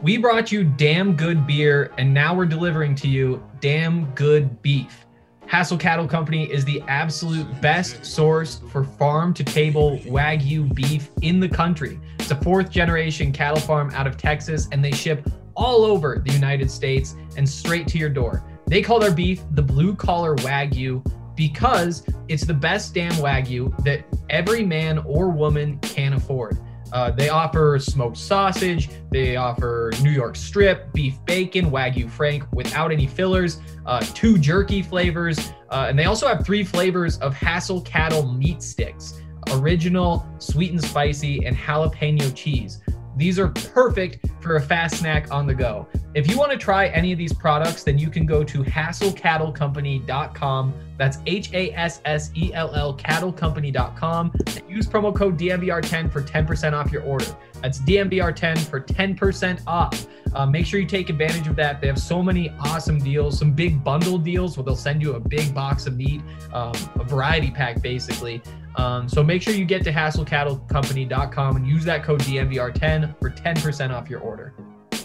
We brought you damn good beer, and now we're delivering to you damn good beef. Hassel Cattle Company is the absolute best source for farm-to-table Wagyu beef in the country. It's a fourth-generation cattle farm out of Texas, and they ship all over the United States and straight to your door. They call their beef the blue-collar Wagyu because it's the best damn Wagyu that every man or woman can afford. They offer smoked sausage, they offer New York strip, beef bacon, Wagyu Frank without any fillers, 2 jerky flavors, and they also have 3 flavors of Hassel Cattle meat sticks, original, sweet and spicy, and jalapeno cheese. These are perfect for a fast snack on the go. If you want to try any of these products, then you can go to hasselcattlecompany.com. That's HASSELL cattlecompany.com. And use promo code DMVR10 for 10% off your order. That's DMVR10 for 10% off. Make sure you take advantage of that. They have so many awesome deals, some big bundle deals where they'll send you a big box of meat, a variety pack basically. So make sure you get to hasselcattlecompany.com and use that code DMVR10 for 10% off your order.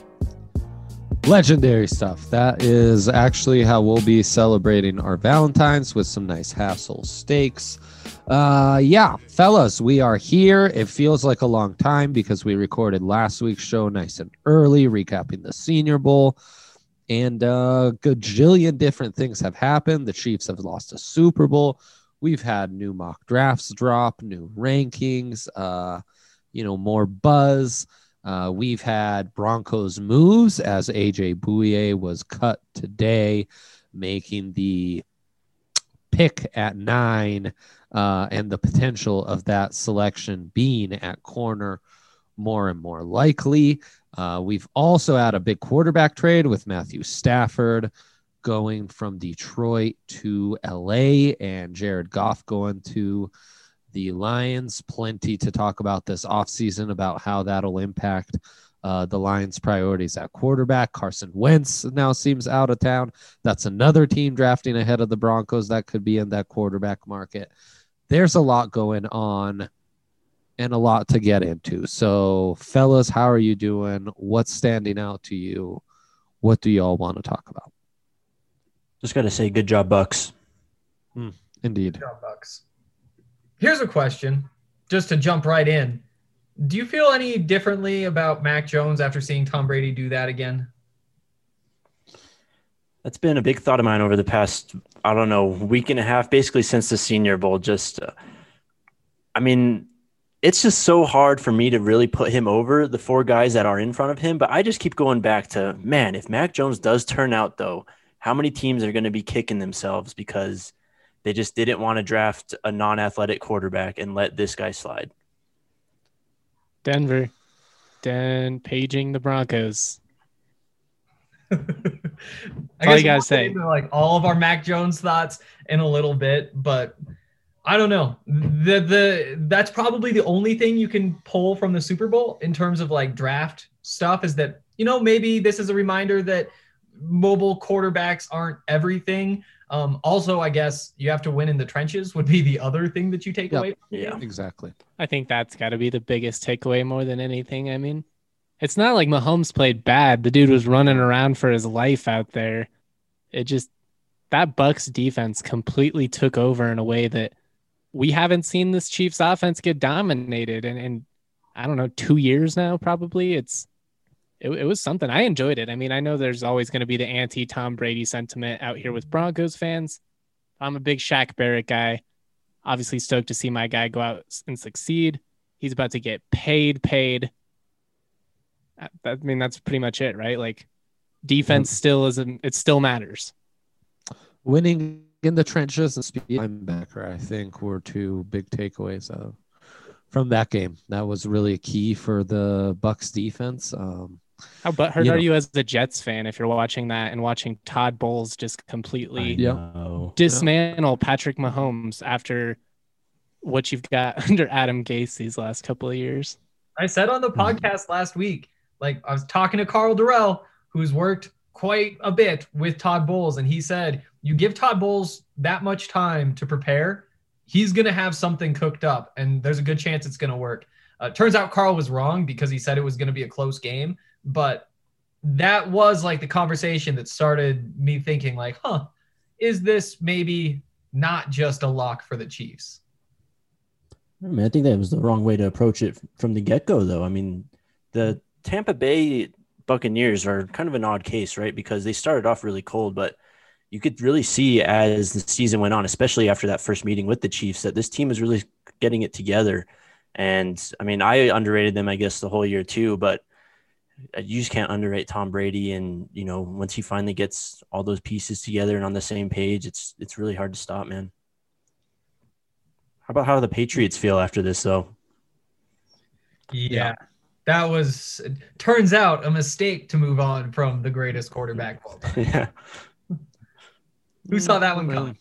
Legendary stuff. That is actually how we'll be celebrating our Valentine's, with some nice Hassel steaks. Yeah, fellas, we are here. It feels like a long time because we recorded last week's show nice and early, recapping the Senior Bowl. And a gajillion different things have happened. The Chiefs have lost a Super Bowl. We've had new mock drafts drop, new rankings, more buzz. We've had Broncos moves, as AJ Bouye was cut today, making the pick at 9 and the potential of that selection being at corner more and more likely. We've also had a big quarterback trade with Matthew Stafford going from Detroit to LA and Jared Goff going to the Lions. Plenty to talk about this offseason about how that'll impact the Lions' priorities at quarterback. Carson Wentz now seems out of town. That's another team drafting ahead of the Broncos that could be in that quarterback market. There's a lot going on and a lot to get into. So, fellas, how are you doing? What's standing out to you? What do y'all want to talk about? Just got to say, good job, Bucks. Indeed. Good job, Bucks. Here's a question, just to jump right in. Do you feel any differently about Mac Jones after seeing Tom Brady do that again? That's been a big thought of mine over the past, week and a half, basically since the Senior Bowl. It's just so hard for me to really put him over the 4 guys that are in front of him. But I just keep going back to, man, if Mac Jones does turn out, though, how many teams are going to be kicking themselves because they just didn't want to draft a non-athletic quarterback and let this guy slide? Denver. Paging the Broncos. I all you gotta say. Like all of our Mac Jones thoughts in a little bit, but I don't know. That's probably the only thing you can pull from the Super Bowl in terms of like draft stuff is that, maybe this is a reminder that mobile quarterbacks aren't everything. Also, I guess you have to win in the trenches would be the other thing that you take away from the game. Exactly. I think that's got to be the biggest takeaway more than anything. I mean, it's not like Mahomes played bad. The dude was running around for his life out there. That Bucks defense completely took over in a way that we haven't seen this Chiefs offense get dominated in I don't know, 2 years now, probably. It was something. I enjoyed it. I mean, I know there's always going to be the anti-Tom Brady sentiment out here with Broncos fans. I'm a big Shaq Barrett guy. Obviously stoked to see my guy go out and succeed. He's about to get paid. I mean, that's pretty much it, right? Like, defense it still matters. Winning in the trenches and speed linebacker, I think, were 2 big takeaways from that game. That was really key for the Bucks defense. How butthurt are you as a Jets fan if you're watching that and watching Todd Bowles just completely dismantle Patrick Mahomes after what you've got under Adam Gase these last couple of years? I said on the podcast last week, like I was talking to Carl Durrell, who's worked quite a bit with Todd Bowles, and he said, you give Todd Bowles that much time to prepare, he's going to have something cooked up, and there's a good chance it's going to work. Turns out Carl was wrong because he said it was going to be a close game, but that was like the conversation that started me thinking like, is this maybe not just a lock for the Chiefs? I mean, I think that was the wrong way to approach it from the get-go, though. I mean, the Tampa Bay Buccaneers are kind of an odd case, right? Because they started off really cold, but you could really see as the season went on, especially after that first meeting with the Chiefs, that this team is really getting it together. And I mean, I underrated them, I guess, the whole year too, but you just can't underrate Tom Brady. And, you know, once he finally gets all those pieces together and on the same page, it's really hard to stop, man. How about how the Patriots feel after this, though? Yeah. That was, turns out, a mistake to move on from the greatest quarterback of all time. Yeah. Who saw that one coming?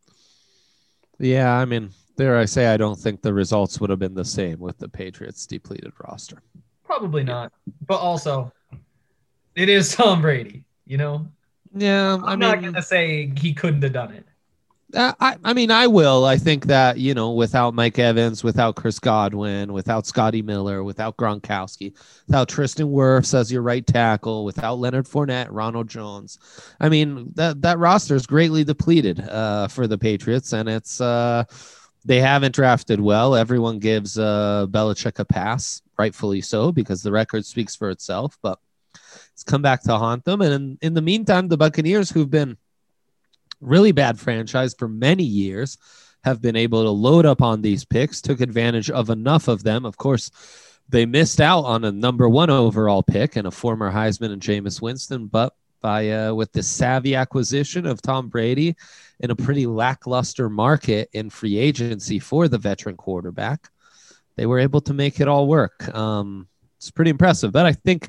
Yeah, I mean, dare I say, I don't think the results would have been the same with the Patriots' depleted roster. Probably not. But also, it is Tom Brady, you know? Yeah, I'm not going to say he couldn't have done it. I mean, I will. I think that, you know, without Mike Evans, without Chris Godwin, without Scotty Miller, without Gronkowski, without Tristan Wirfs as your right tackle, without Leonard Fournette, Ronald Jones, I mean, that roster is greatly depleted for the Patriots, and it's they haven't drafted well. Everyone gives Belichick a pass, rightfully so, because the record speaks for itself, but it's come back to haunt them. And in the meantime, the Buccaneers, who've been really bad franchise for many years, have been able to load up on these picks, took advantage of enough of them. Of course, they missed out on a number 1 overall pick and a former Heisman and Jameis Winston, but with the savvy acquisition of Tom Brady in a pretty lackluster market in free agency for the veteran quarterback, they were able to make it all work. It's pretty impressive, but I think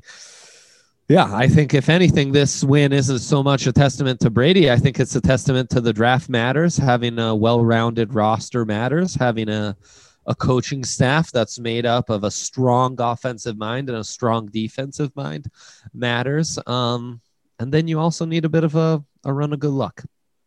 if anything, this win isn't so much a testament to Brady. I think it's a testament to the draft matters. Having a well-rounded roster matters. Having a coaching staff that's made up of a strong offensive mind and a strong defensive mind matters. And then you also need a bit of a run of good luck.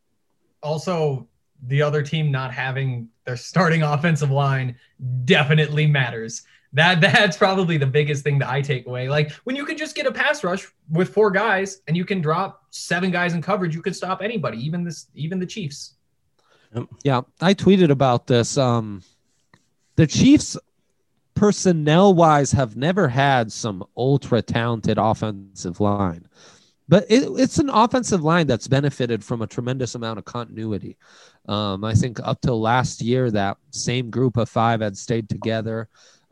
Also, the other team not having their starting offensive line definitely matters. That's probably the biggest thing that I take away. Like, when you can just get a pass rush with 4 guys and you can drop 7 guys in coverage, you could stop anybody, even the Chiefs. Yeah, I tweeted about this. The Chiefs, personnel-wise, have never had some ultra-talented offensive line. But it's an offensive line that's benefited from a tremendous amount of continuity. I think up till last year, that same group of 5 had stayed together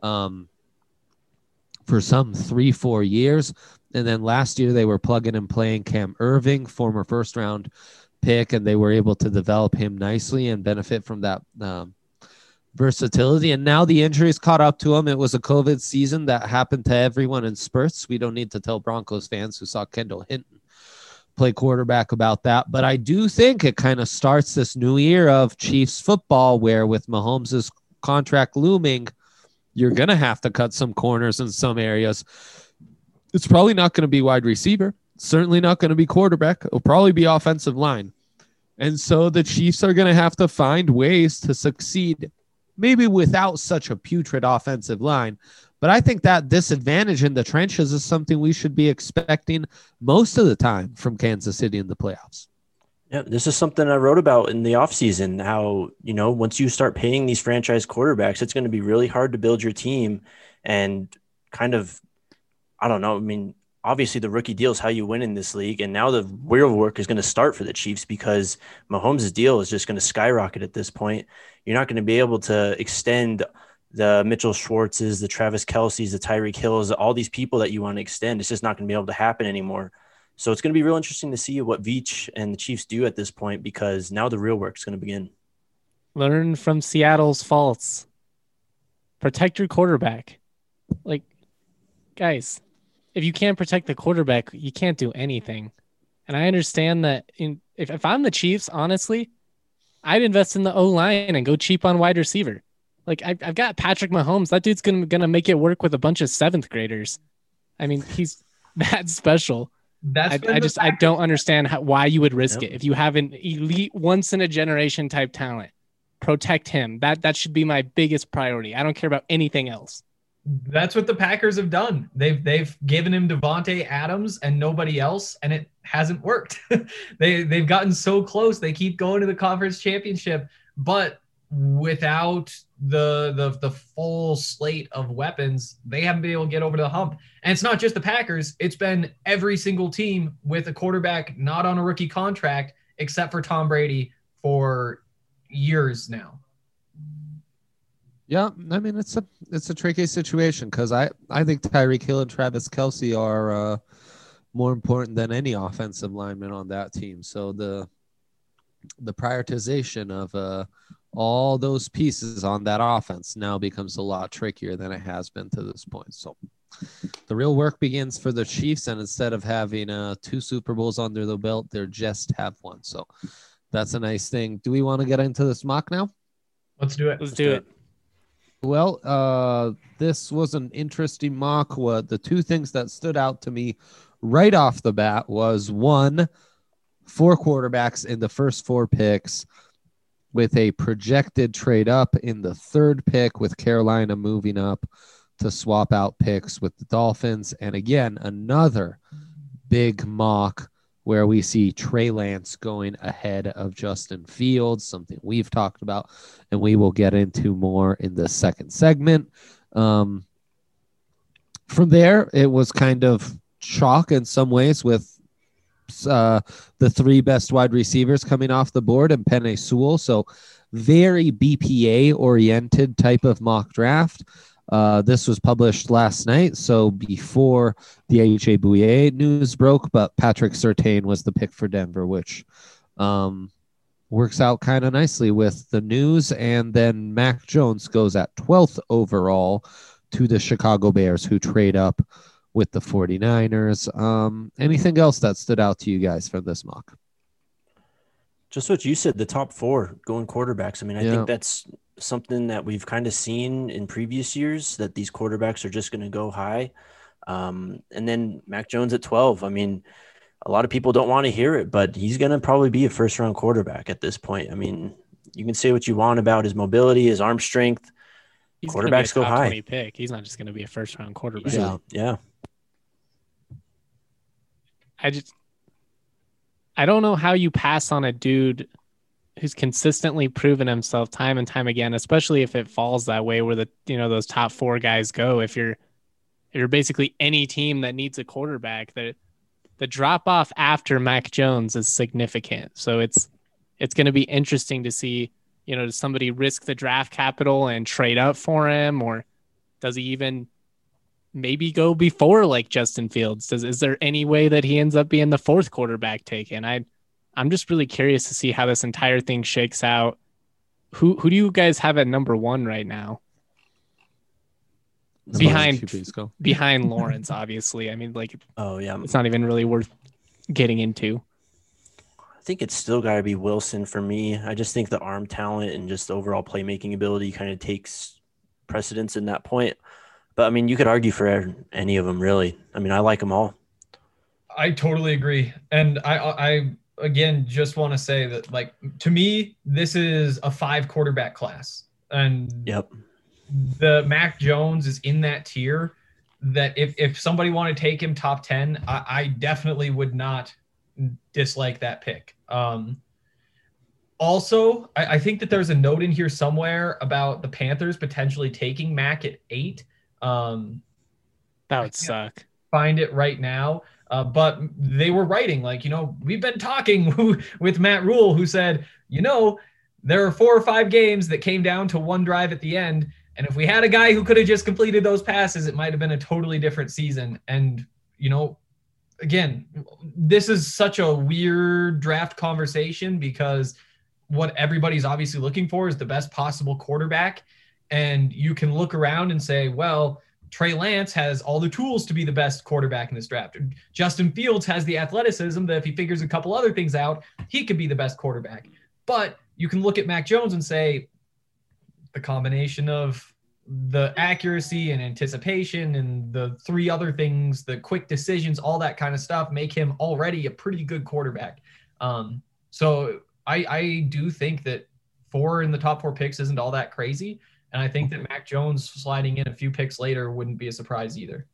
for some 3-4 years. And then last year they were plugging and playing Cam Irving, former first round pick, and they were able to develop him nicely and benefit from that versatility. And now the injuries caught up to him. It was a COVID season that happened to everyone in spurts. We don't need to tell Broncos fans who saw Kendall Hinton play quarterback about that. But I do think it kind of starts this new year of Chiefs football where, with Mahomes' contract looming, you're going to have to cut some corners in some areas. It's probably not going to be wide receiver. Certainly not going to be quarterback. It'll probably be offensive line. And so the Chiefs are going to have to find ways to succeed, maybe without such a putrid offensive line. But I think that disadvantage in the trenches is something we should be expecting most of the time from Kansas City in the playoffs. Yeah, this is something I wrote about in the offseason, how, you know, once you start paying these franchise quarterbacks, it's going to be really hard to build your team and kind of, I don't know. I mean, obviously the rookie deal is how you win in this league. And now the real work is going to start for the Chiefs because Mahomes' deal is just going to skyrocket at this point. You're not going to be able to extend the Mitchell Schwartzes, the Travis Kelce's, the Tyreek Hills, all these people that you want to extend. It's just not going to be able to happen anymore. So it's going to be real interesting to see what Veach and the Chiefs do at this point, because now the real work is going to begin. Learn from Seattle's faults. Protect your quarterback. Like, guys, if you can't protect the quarterback, you can't do anything. And I understand that if I'm the Chiefs, honestly, I'd invest in the O-line and go cheap on wide receiver. Like, I've got Patrick Mahomes. That dude's gonna make it work with a bunch of 7th graders. I mean, he's that special. I don't understand why you would risk it. If you have an elite, once in a generation type talent, protect him. That should be my biggest priority. I don't care about anything else. That's what the Packers have done. They've given him Devontae Adams and nobody else, and it hasn't worked. They've gotten so close. They keep going to the conference championship, but without the full slate of weapons, they haven't been able to get over the hump. And it's not just the Packers. It's been every single team with a quarterback not on a rookie contract, except for Tom Brady, for years now. Yeah, I mean it's a tricky situation because I think Tyreek Hill and Travis Kelce are more important than any offensive lineman on that team. So the prioritization of all those pieces on that offense now becomes a lot trickier than it has been to this point. So the real work begins for the Chiefs, and instead of having 2 Super Bowls under the belt, they just have one. So that's a nice thing. Do we want to get into this mock now? Let's do it. Let's do it. Well, this was an interesting mock. The 2 things that stood out to me right off the bat was 1, 4 quarterbacks in the first 4 picks, with a projected trade up in the 3rd pick, with Carolina moving up to swap out picks with the Dolphins. And again, another big mock where we see Trey Lance going ahead of Justin Fields, something we've talked about, and we will get into more in the second segment. From there, it was kind of chalk in some ways, with the 3 best wide receivers coming off the board and Penei Sewell. So very BPA-oriented type of mock draft. This was published last night, so before the AJ Bouye news broke, but Patrick Surtain was the pick for Denver, which works out kind of nicely with the news. And then Mac Jones goes at 12th overall to the Chicago Bears, who trade up with the 49ers. Anything else that stood out to you guys from this mock? Just what you said, the top 4 going quarterbacks. I mean, I think that's something that we've kind of seen in previous years, that these quarterbacks are just going to go high. And then Mac Jones at 12. I mean, a lot of people don't want to hear it, but he's going to probably be a first-round quarterback at this point. I mean, you can say what you want about his mobility, his arm strength. He's Quarterbacks go high. 20 pick. He's not just going to be a first-round quarterback. Yeah. I don't know how you pass on a dude who's consistently proven himself time and time again, especially if it falls that way where those top 4 guys go. If you're basically any team that needs a quarterback, the drop off after Mac Jones is significant. So it's going to be interesting to see, does somebody risk the draft capital and trade up for him, or does he even maybe go before like Justin Fields? Is there any way that he ends up being the 4th quarterback taken? I'm just really curious to see how this entire thing shakes out. Who do you guys have at number 1 right now? Behind Lawrence, obviously. I mean, it's not even really worth getting into. I think it's still got to be Wilson for me. I just think the arm talent and just the overall playmaking ability kind of takes precedence in that point. But I mean, you could argue for any of them, really. I mean, I like them all. I totally agree. And I again, just want to say that, like, to me, this is a 5 quarterback class. And the Mac Jones is in that tier that if somebody wanted to take him top 10, I definitely would not dislike that pick. Also, I think that there's a note in here somewhere about the Panthers potentially taking Mac at 8. That would suck. Find it right now. But they were writing, we've been talking with Matt Rule, who said, there are 4 or 5 games that came down to 1 drive at the end. And if we had a guy who could have just completed those passes, it might have been a totally different season. And, again, this is such a weird draft conversation because what everybody's obviously looking for is the best possible quarterback. And you can look around and say, well, Trey Lance has all the tools to be the best quarterback in this draft. Justin Fields has the athleticism that if he figures a couple other things out, he could be the best quarterback. But you can look at Mac Jones and say the combination of the accuracy and anticipation and the 3 other things, the quick decisions, all that kind of stuff, make him already a pretty good quarterback. So I do think that 4 in the top 4 picks isn't all that crazy. And I think that Mac Jones sliding in a few picks later wouldn't be a surprise either.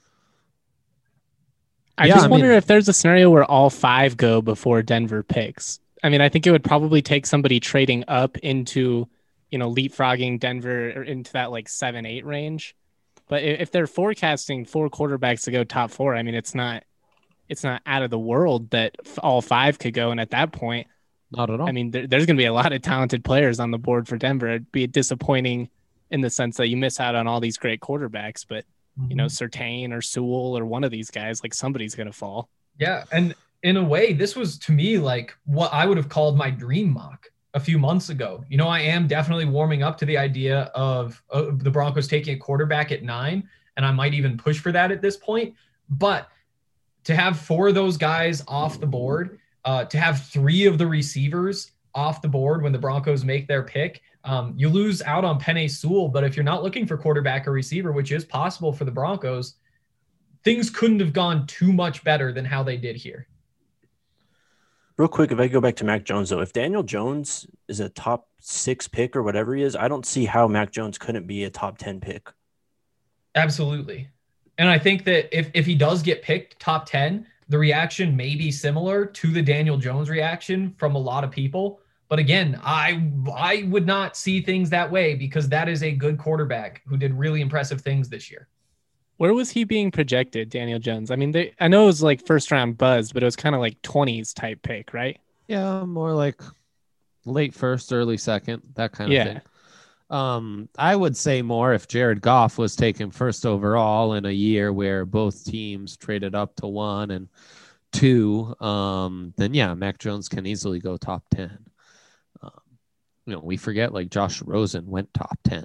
I just wonder if there's a scenario where all 5 go before Denver picks. I mean, I think it would probably take somebody trading up into, leapfrogging Denver into that like 7-8 range. But if they're forecasting 4 quarterbacks to go top 4, I mean, it's not out of the world that all 5 could go. And at that point, not at all. I mean, there's going to be a lot of talented players on the board for Denver. It'd be disappointing in the sense that you miss out on all these great quarterbacks, but Surtain or Sewell or one of these guys, like somebody's going to fall. Yeah. And in a way, this was to me like what I would have called my dream mock a few months ago. I am definitely warming up to the idea of the Broncos taking a quarterback at 9, and I might even push for that at this point. But to have 4 of those guys off the board, to have 3 of the receivers off the board when the Broncos make their pick, you lose out on Penei Sewell. But if you're not looking for quarterback or receiver, which is possible for the Broncos, things couldn't have gone too much better than how they did here. Real quick, if I go back to Mac Jones, though, if Daniel Jones is a top 6 pick or whatever he is, I don't see how Mac Jones couldn't be a top 10 pick. Absolutely. And I think that if he does get picked top 10, the reaction may be similar to the Daniel Jones reaction from a lot of people. But again, I would not see things that way because that is a good quarterback who did really impressive things this year. Where was he being projected, Daniel Jones? I mean, I know it was like first round buzz, but it was kind of like 20s type pick, right? Yeah, more like late first, early second, that kind of thing. I would say more if Jared Goff was taken first overall in a year where both teams traded up to 1 and 2, then yeah, Mac Jones can easily go top 10. We forget like Josh Rosen went top 10.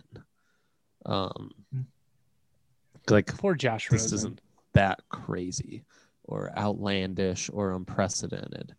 Like poor Josh Rosen. This isn't that crazy or outlandish or unprecedented.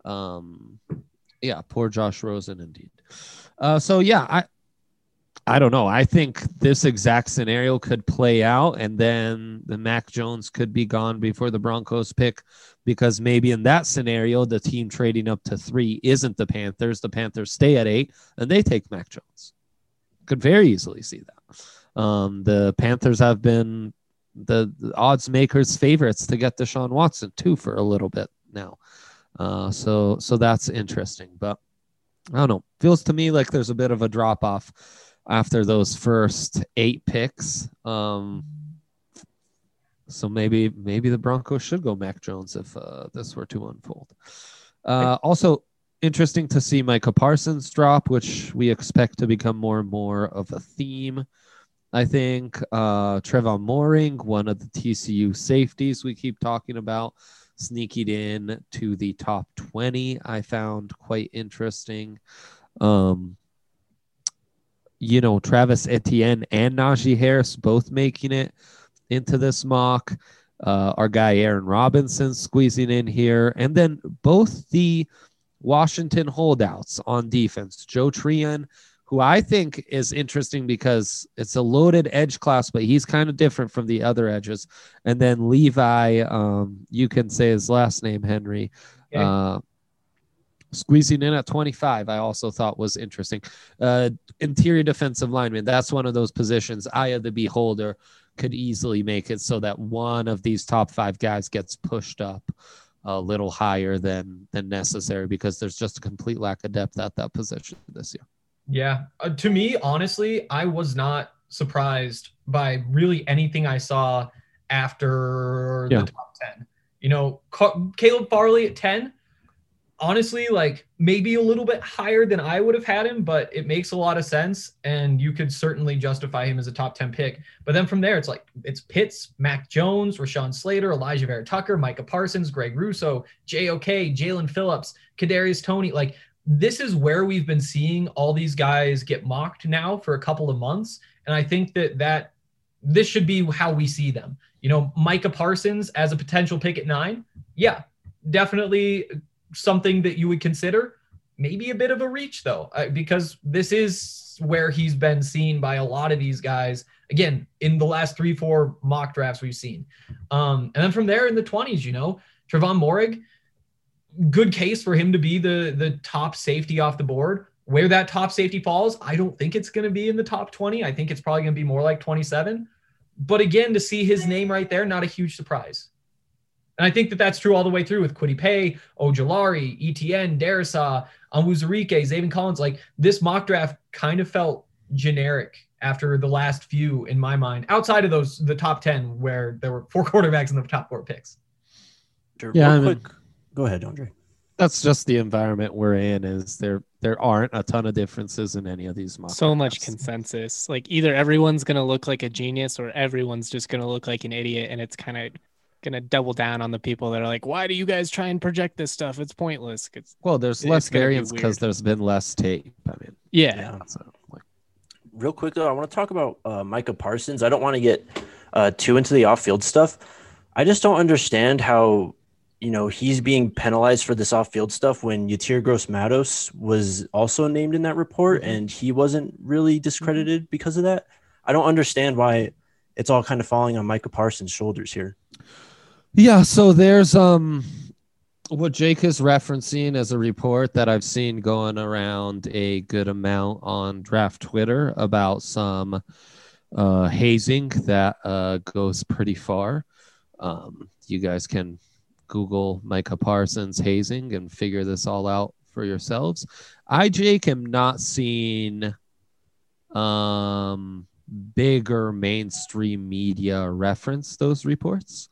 Yeah, poor Josh Rosen indeed. So yeah, I don't know. I think this exact scenario could play out, and then the Mac Jones could be gone before the Broncos pick, because maybe in that scenario, the team trading up to 3 isn't the Panthers. The Panthers stay at 8, and they take Mac Jones. Could very easily see that. The Panthers have been the odds makers' favorites to get Deshaun Watson too for a little bit now. So that's interesting, but I don't know. Feels to me like there's a bit of a drop off after those first 8 picks. So maybe the Broncos should go Mac Jones if this were to unfold. Also interesting to see Micah Parsons drop, which we expect to become more and more of a theme. I think Trevon Moehrig, one of the TCU safeties we keep talking about, sneaking in to the top 20, I found quite interesting. Travis Etienne and Najee Harris both making it into this mock. Our guy Aaron Robinson squeezing in here. And then both the Washington holdouts on defense, Joe Tryon, who I think is interesting because it's a loaded edge class, but he's kind of different from the other edges. And then Levi, you can say his last name, Henry, squeezing in at 25, I also thought was interesting. Interior defensive lineman, that's one of those positions, eye of the beholder, could easily make it so that one of these top 5 guys gets pushed up a little higher than necessary, because there's just a complete lack of depth at that position this year. Yeah. To me, honestly, I was not surprised by really anything I saw after the top 10. Caleb Farley at 10, honestly, like maybe a little bit higher than I would have had him, but it makes a lot of sense. And you could certainly justify him as a top 10 pick. But then from there, it's Pitts, Mac Jones, Rashawn Slater, Elijah Vera Tucker, Micah Parsons, Greg Russo, J.O.K., Jalen Phillips, Kadarius Toney. Like, this is where we've been seeing all these guys get mocked now for a couple of months. And I think that this should be how we see them. Micah Parsons as a potential pick at 9. Yeah, definitely something that you would consider. Maybe a bit of a reach though, because this is where he's been seen by a lot of these guys. Again, in the last 3-4 mock drafts we've seen. And then from there in the 20s, Trevon Moehrig, good case for him to be the top safety off the board. where that top safety falls, I don't think it's going to be in the top 20. I think it's probably going to be more like 27. But again, to see his name right there, not a huge surprise. And I think that that's true all the way through with Kwity Paye, Ojulari, ETN, Darrisaw, Onwuzurike, Zaven Collins. Like, this mock draft kind of felt generic after the last few in my mind, outside of the top 10 where there were 4 quarterbacks in the top 4 picks. Yeah, quick. Go ahead, Andre. That's just the environment we're in. Is there aren't a ton of differences in any of these mock So much drafts. consensus. Like, either everyone's going to look like a genius or everyone's just going to look like an idiot. And it's kind of going to double down on the people that are like, why do you guys try and project this stuff? It's pointless. Well, there's less variance because there's been less tape. I mean, yeah. So, like, Real quick, though, I want to talk about Micah Parsons. I don't want to get too into the off-field stuff. I just don't understand how, he's being penalized for this off-field stuff when Yetur Gross-Matos was also named in that report and he wasn't really discredited because of that. I don't understand why it's all kind of falling on Micah Parsons' shoulders here. Yeah, so there's what Jake is referencing as a report that I've seen going around a good amount on draft Twitter about some hazing that goes pretty far. You guys can Google Micah Parsons hazing and figure this all out for yourselves. I, Jake, am not seeing bigger mainstream media reference those reports.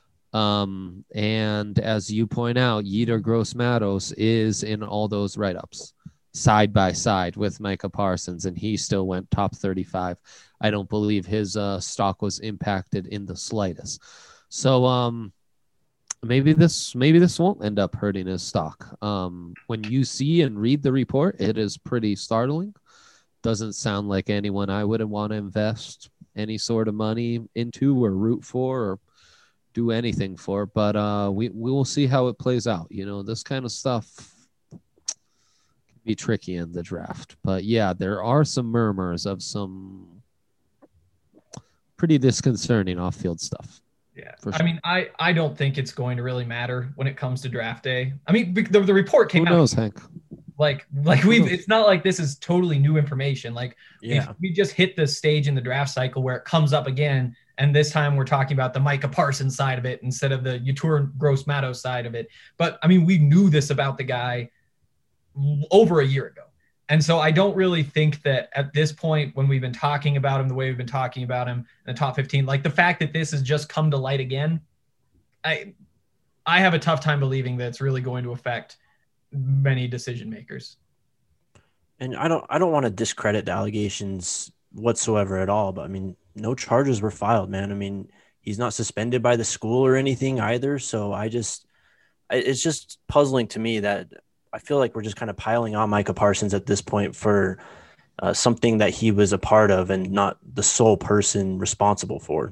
And as you point out, Yetur Gross-Matos is in all those write-ups side by side with Micah Parsons, and he still went top 35. I don't believe his stock was impacted in the slightest. So maybe this won't end up hurting his stock. When you see and read the report, it is pretty startling. Doesn't sound like anyone I would want to invest any sort of money into or root for or do anything for, but we will see how it plays out. This kind of stuff can be tricky in the draft. But yeah, there are some murmurs of some pretty disconcerting off-field stuff. Yeah. Sure. I mean, I don't think it's going to really matter when it comes to draft day. I mean, the report came out. Who knows, Hank? Like it's not like this is totally new information. Like, we just hit the stage in the draft cycle where it comes up again. And this time we're talking about the Micah Parsons side of it instead of the Yetur Gross-Matos side of it. But I mean, we knew this about the guy over a year ago. And so I don't really think that at this point, when we've been talking about him the way we've been talking about him in the top 15, like the fact that this has just come to light again, I have a tough time believing that it's really going to affect many decision makers. And I don't want to discredit the allegations whatsoever at all, but I mean, no charges were filed, man. I mean, he's not suspended by the school or anything either. So it's just puzzling to me that I feel like we're just kind of piling on Micah Parsons at this point for something that he was a part of and not the sole person responsible for.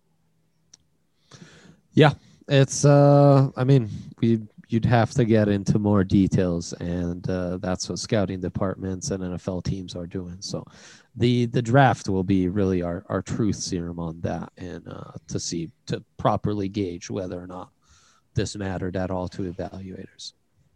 Yeah, it's, I mean, you'd have to get into more details, and that's what scouting departments and NFL teams are doing. So the draft will be really our truth serum on that, and to properly gauge whether or not this mattered at all to evaluators.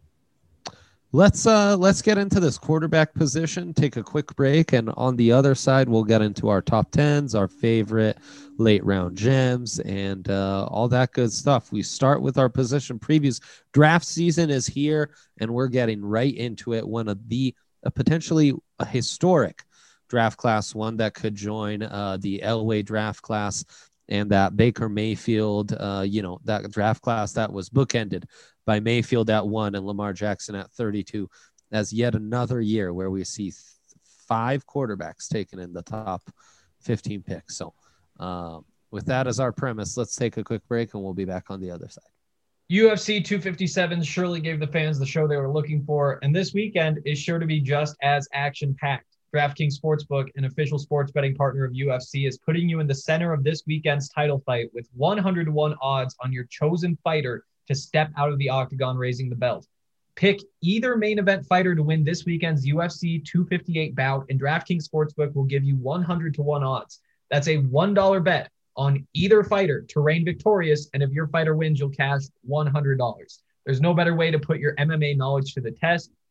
Let's get into this quarterback position, take a quick break, and on the other side, we'll get into our top 10s, our favorite late round gems, and all that good stuff. We start with our position previews. Draft season is here, and we're getting right into it. One of potentially a historic draft class, one that could join the Elway draft class and that Baker Mayfield, that draft class that was bookended by Mayfield at 1 and Lamar Jackson at 32, as yet another year where we see 5 quarterbacks taken in the top 15 picks. So with that as our premise, let's take a quick break and we'll be back on the other side. UFC 257 surely gave the fans the show they were looking for, and this weekend is sure to be just as action-packed. DraftKings Sportsbook, an official sports betting partner of UFC, is putting you in the center of this weekend's title fight with 100-to-1 odds on your chosen fighter to step out of the octagon raising the belt. Pick either main event fighter to win this weekend's UFC 258 bout, and DraftKings Sportsbook will give you 100-to-1 odds. That's a $1 bet on either fighter to reign victorious, and if your fighter wins, you'll cash $100. There's no better way to put your MMA knowledge to the test.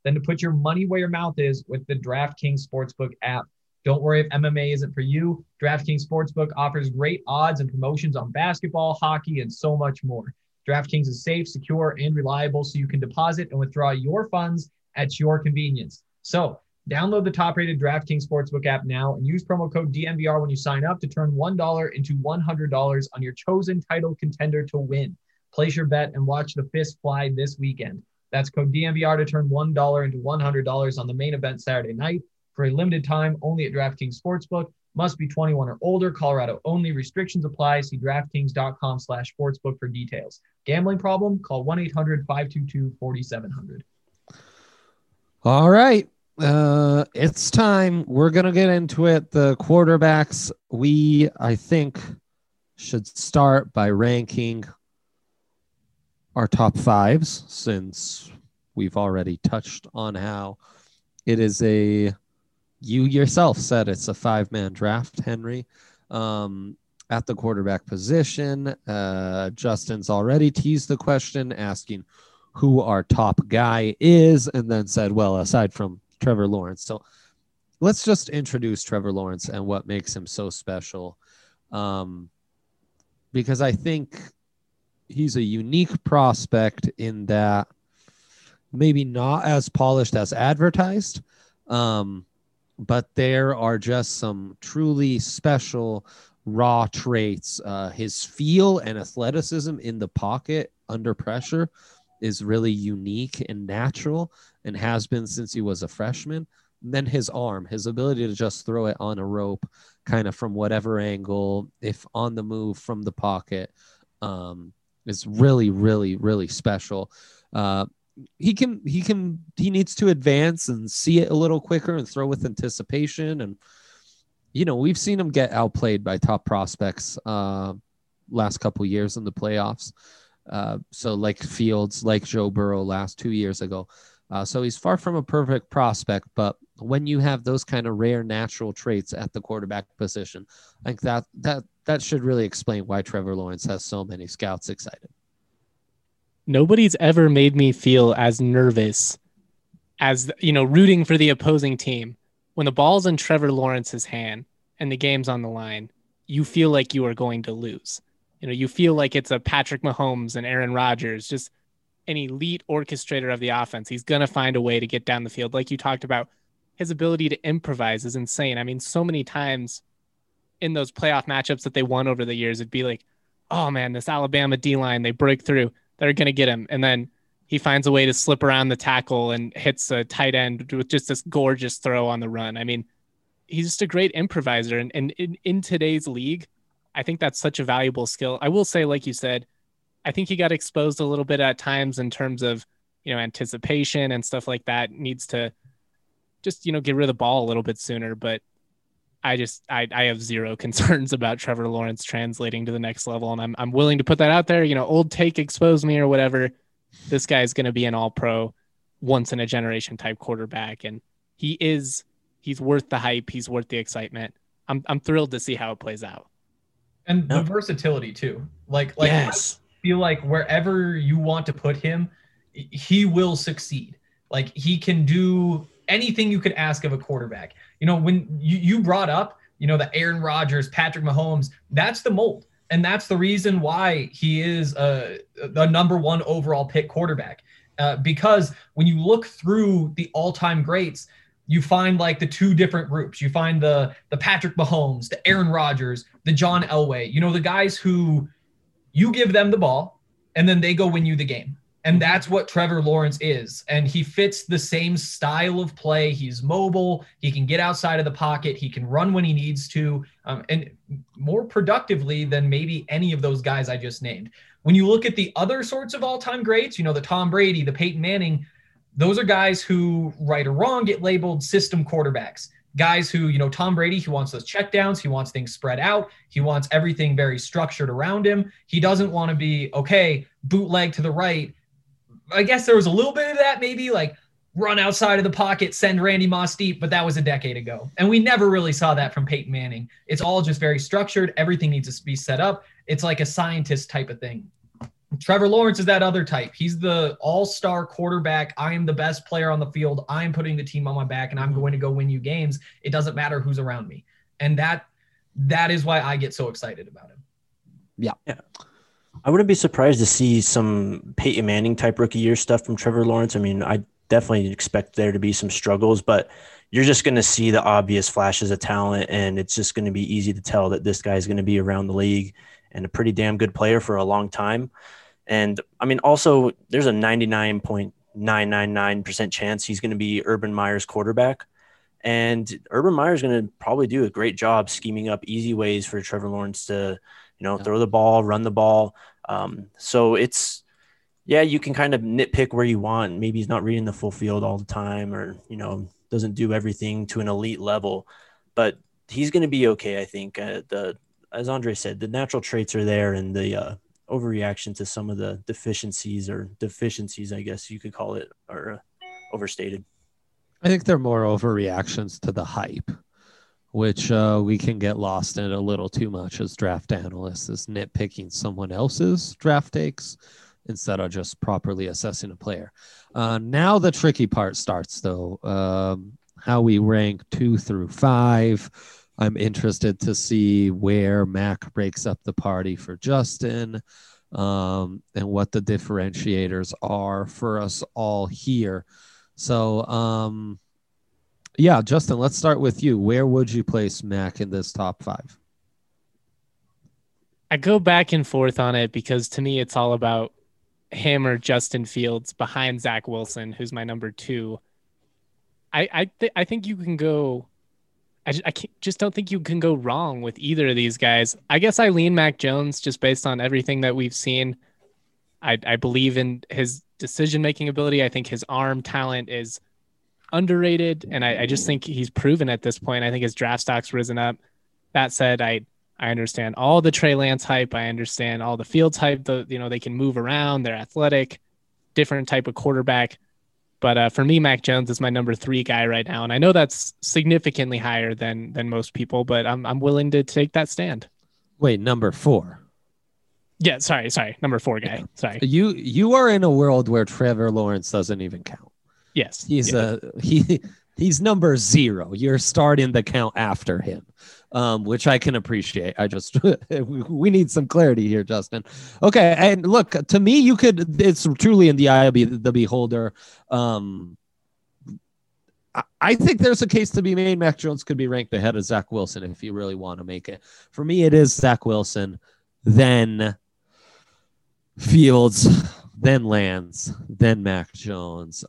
than to put your money where your mouth is with the DraftKings Sportsbook app. Don't worry if MMA isn't for you. DraftKings Sportsbook offers great odds and promotions on basketball, hockey, and so much more. DraftKings is safe, secure, and reliable, so you can deposit and withdraw your funds at your convenience. So download the top-rated DraftKings Sportsbook app now and use promo code DNVR when you sign up to turn $1 into $100 on your chosen title contender to win. Place your bet and watch the fist fly this weekend. That's code DNVR to turn $1 into $100 on the main event Saturday night. For a limited time, only at DraftKings Sportsbook. Must be 21 or older. Colorado only. Restrictions apply. See DraftKings.com/sportsbook for details. Gambling problem? Call 1-800-522-4700. All right. It's time. We're going to get into it. The quarterbacks, I think, should start by ranking our top fives, since we've already touched on how it is you yourself said it's a 5-man draft, Henry. At the quarterback position, Justin's already teased the question, asking who our top guy is, and then said, well, aside from Trevor Lawrence. So let's just introduce Trevor Lawrence and what makes him so special. Because I think he's a unique prospect in that maybe not as polished as advertised, but there are just some truly special raw traits. His feel and athleticism in the pocket under pressure is really unique and natural, and has been since he was a freshman. And then his arm, his ability to just throw it on a rope, kind of from whatever angle, if on the move from the pocket, is really, really, really special. He needs to advance and see it a little quicker and throw with anticipation. And, we've seen him get outplayed by top prospects last couple years in the playoffs. So like Fields, like Joe Burrow last 2 years ago. So he's far from a perfect prospect, but when you have those kind of rare natural traits at the quarterback position, I think that should really explain why Trevor Lawrence has so many scouts excited. Nobody's ever made me feel as nervous as, rooting for the opposing team. When the ball's in Trevor Lawrence's hand and the game's on the line, you feel like you are going to lose. You feel like it's a Patrick Mahomes and Aaron Rodgers, just an elite orchestrator of the offense. He's going to find a way to get down the field. Like you talked about, his ability to improvise is insane. I mean, so many times in those playoff matchups that they won over the years, it'd be like, oh man, this Alabama D-line, they break through, they're going to get him. And then he finds a way to slip around the tackle and hits a tight end with just this gorgeous throw on the run. I mean, he's just a great improviser. And in today's league, I think that's such a valuable skill. I will say, like you said, I think he got exposed a little bit at times in terms of, anticipation and stuff like that. Needs to just, get rid of the ball a little bit sooner. But I have zero concerns about Trevor Lawrence translating to the next level. And I'm willing to put that out there. Old take exposed me or whatever. This guy's going to be an all-pro, once in a generation type quarterback. And he's worth the hype. He's worth the excitement. I'm thrilled to see how it plays out. And the versatility too. Like yes. I feel like wherever you want to put him, he will succeed. Like he can do anything you could ask of a quarterback. When you brought up, the Aaron Rodgers, Patrick Mahomes, that's the mold. And that's the reason why he is the number one overall pick quarterback. Because when you look through the all-time greats, you find like the two different groups. You find the Patrick Mahomes, the Aaron Rodgers, the John Elway, the guys who you give them the ball and then they go win you the game. And that's what Trevor Lawrence is. And he fits the same style of play. He's mobile. He can get outside of the pocket. He can run when he needs to, and more productively than maybe any of those guys I just named. When you look at the other sorts of all-time greats, the Tom Brady, the Peyton Manning, those are guys who, right or wrong, get labeled system quarterbacks. Guys who, Tom Brady, he wants those checkdowns. He wants things spread out. He wants everything very structured around him. He doesn't want to be, okay, bootleg to the right. I guess there was a little bit of that, maybe like run outside of the pocket, send Randy Moss deep, but that was a decade ago. And we never really saw that from Peyton Manning. It's all just very structured. Everything needs to be set up. It's like a scientist type of thing. Trevor Lawrence is that other type. He's the all-star quarterback. I am the best player on the field. I'm putting the team on my back, and I'm going to go win you games. It doesn't matter who's around me. And that is why I get so excited about him. Yeah. I wouldn't be surprised to see some Peyton Manning type rookie year stuff from Trevor Lawrence. I mean, I definitely expect there to be some struggles, but you're just going to see the obvious flashes of talent, and it's just going to be easy to tell that this guy is going to be around the league and a pretty damn good player for a long time. And I mean, also there's a 99.999% chance he's going to be Urban Meyer's quarterback. And Urban Meyer is going to probably do a great job scheming up easy ways for Trevor Lawrence to, throw the ball, run the ball. So it's, you can kind of nitpick where you want. Maybe he's not reading the full field all the time, or, doesn't do everything to an elite level, but he's going to be okay. I think as Andre said, the natural traits are there, and the overreaction to some of the deficiencies, I guess you could call it, are overstated. I think they're more overreactions to the hype, which we can get lost in a little too much as draft analysts, is nitpicking someone else's draft takes instead of just properly assessing a player. Now the tricky part starts, though. How we rank 2 through 5. I'm interested to see where Mac breaks up the party for Justin, and what the differentiators are for us all here. So, Justin, let's start with you. Where would you place Mac in this top 5? I go back and forth on it because to me, it's all about him or Justin Fields behind Zach Wilson, who's my number 2. I think you can go. Just don't think you can go wrong with either of these guys. I guess I lean Mac Jones just based on everything that we've seen. I believe in his decision-making ability. I think his arm talent is underrated, and I just think he's proven at this point. I think his draft stock's risen up. That said, I understand all the Trey Lance hype. I understand all the Fields hype. They can move around. They're athletic, different type of quarterback. But for me, Mac Jones is my number 3 guy right now, and I know that's significantly higher than most people, but I'm willing to take that stand. He number 4. Yeah, sorry, number 4 guy. Sorry. You are in a world where Trevor Lawrence doesn't even count. Yes, he's number 0. You're starting the count after him, which I can appreciate. I just we need some clarity here, Justin. Okay, and look, to me, it's truly in the eye of the beholder. I think there's a case to be made. Mac Jones could be ranked ahead of Zach Wilson if you really want to make it. For me, it is Zach Wilson, then Fields, then Lance, then Mac Jones.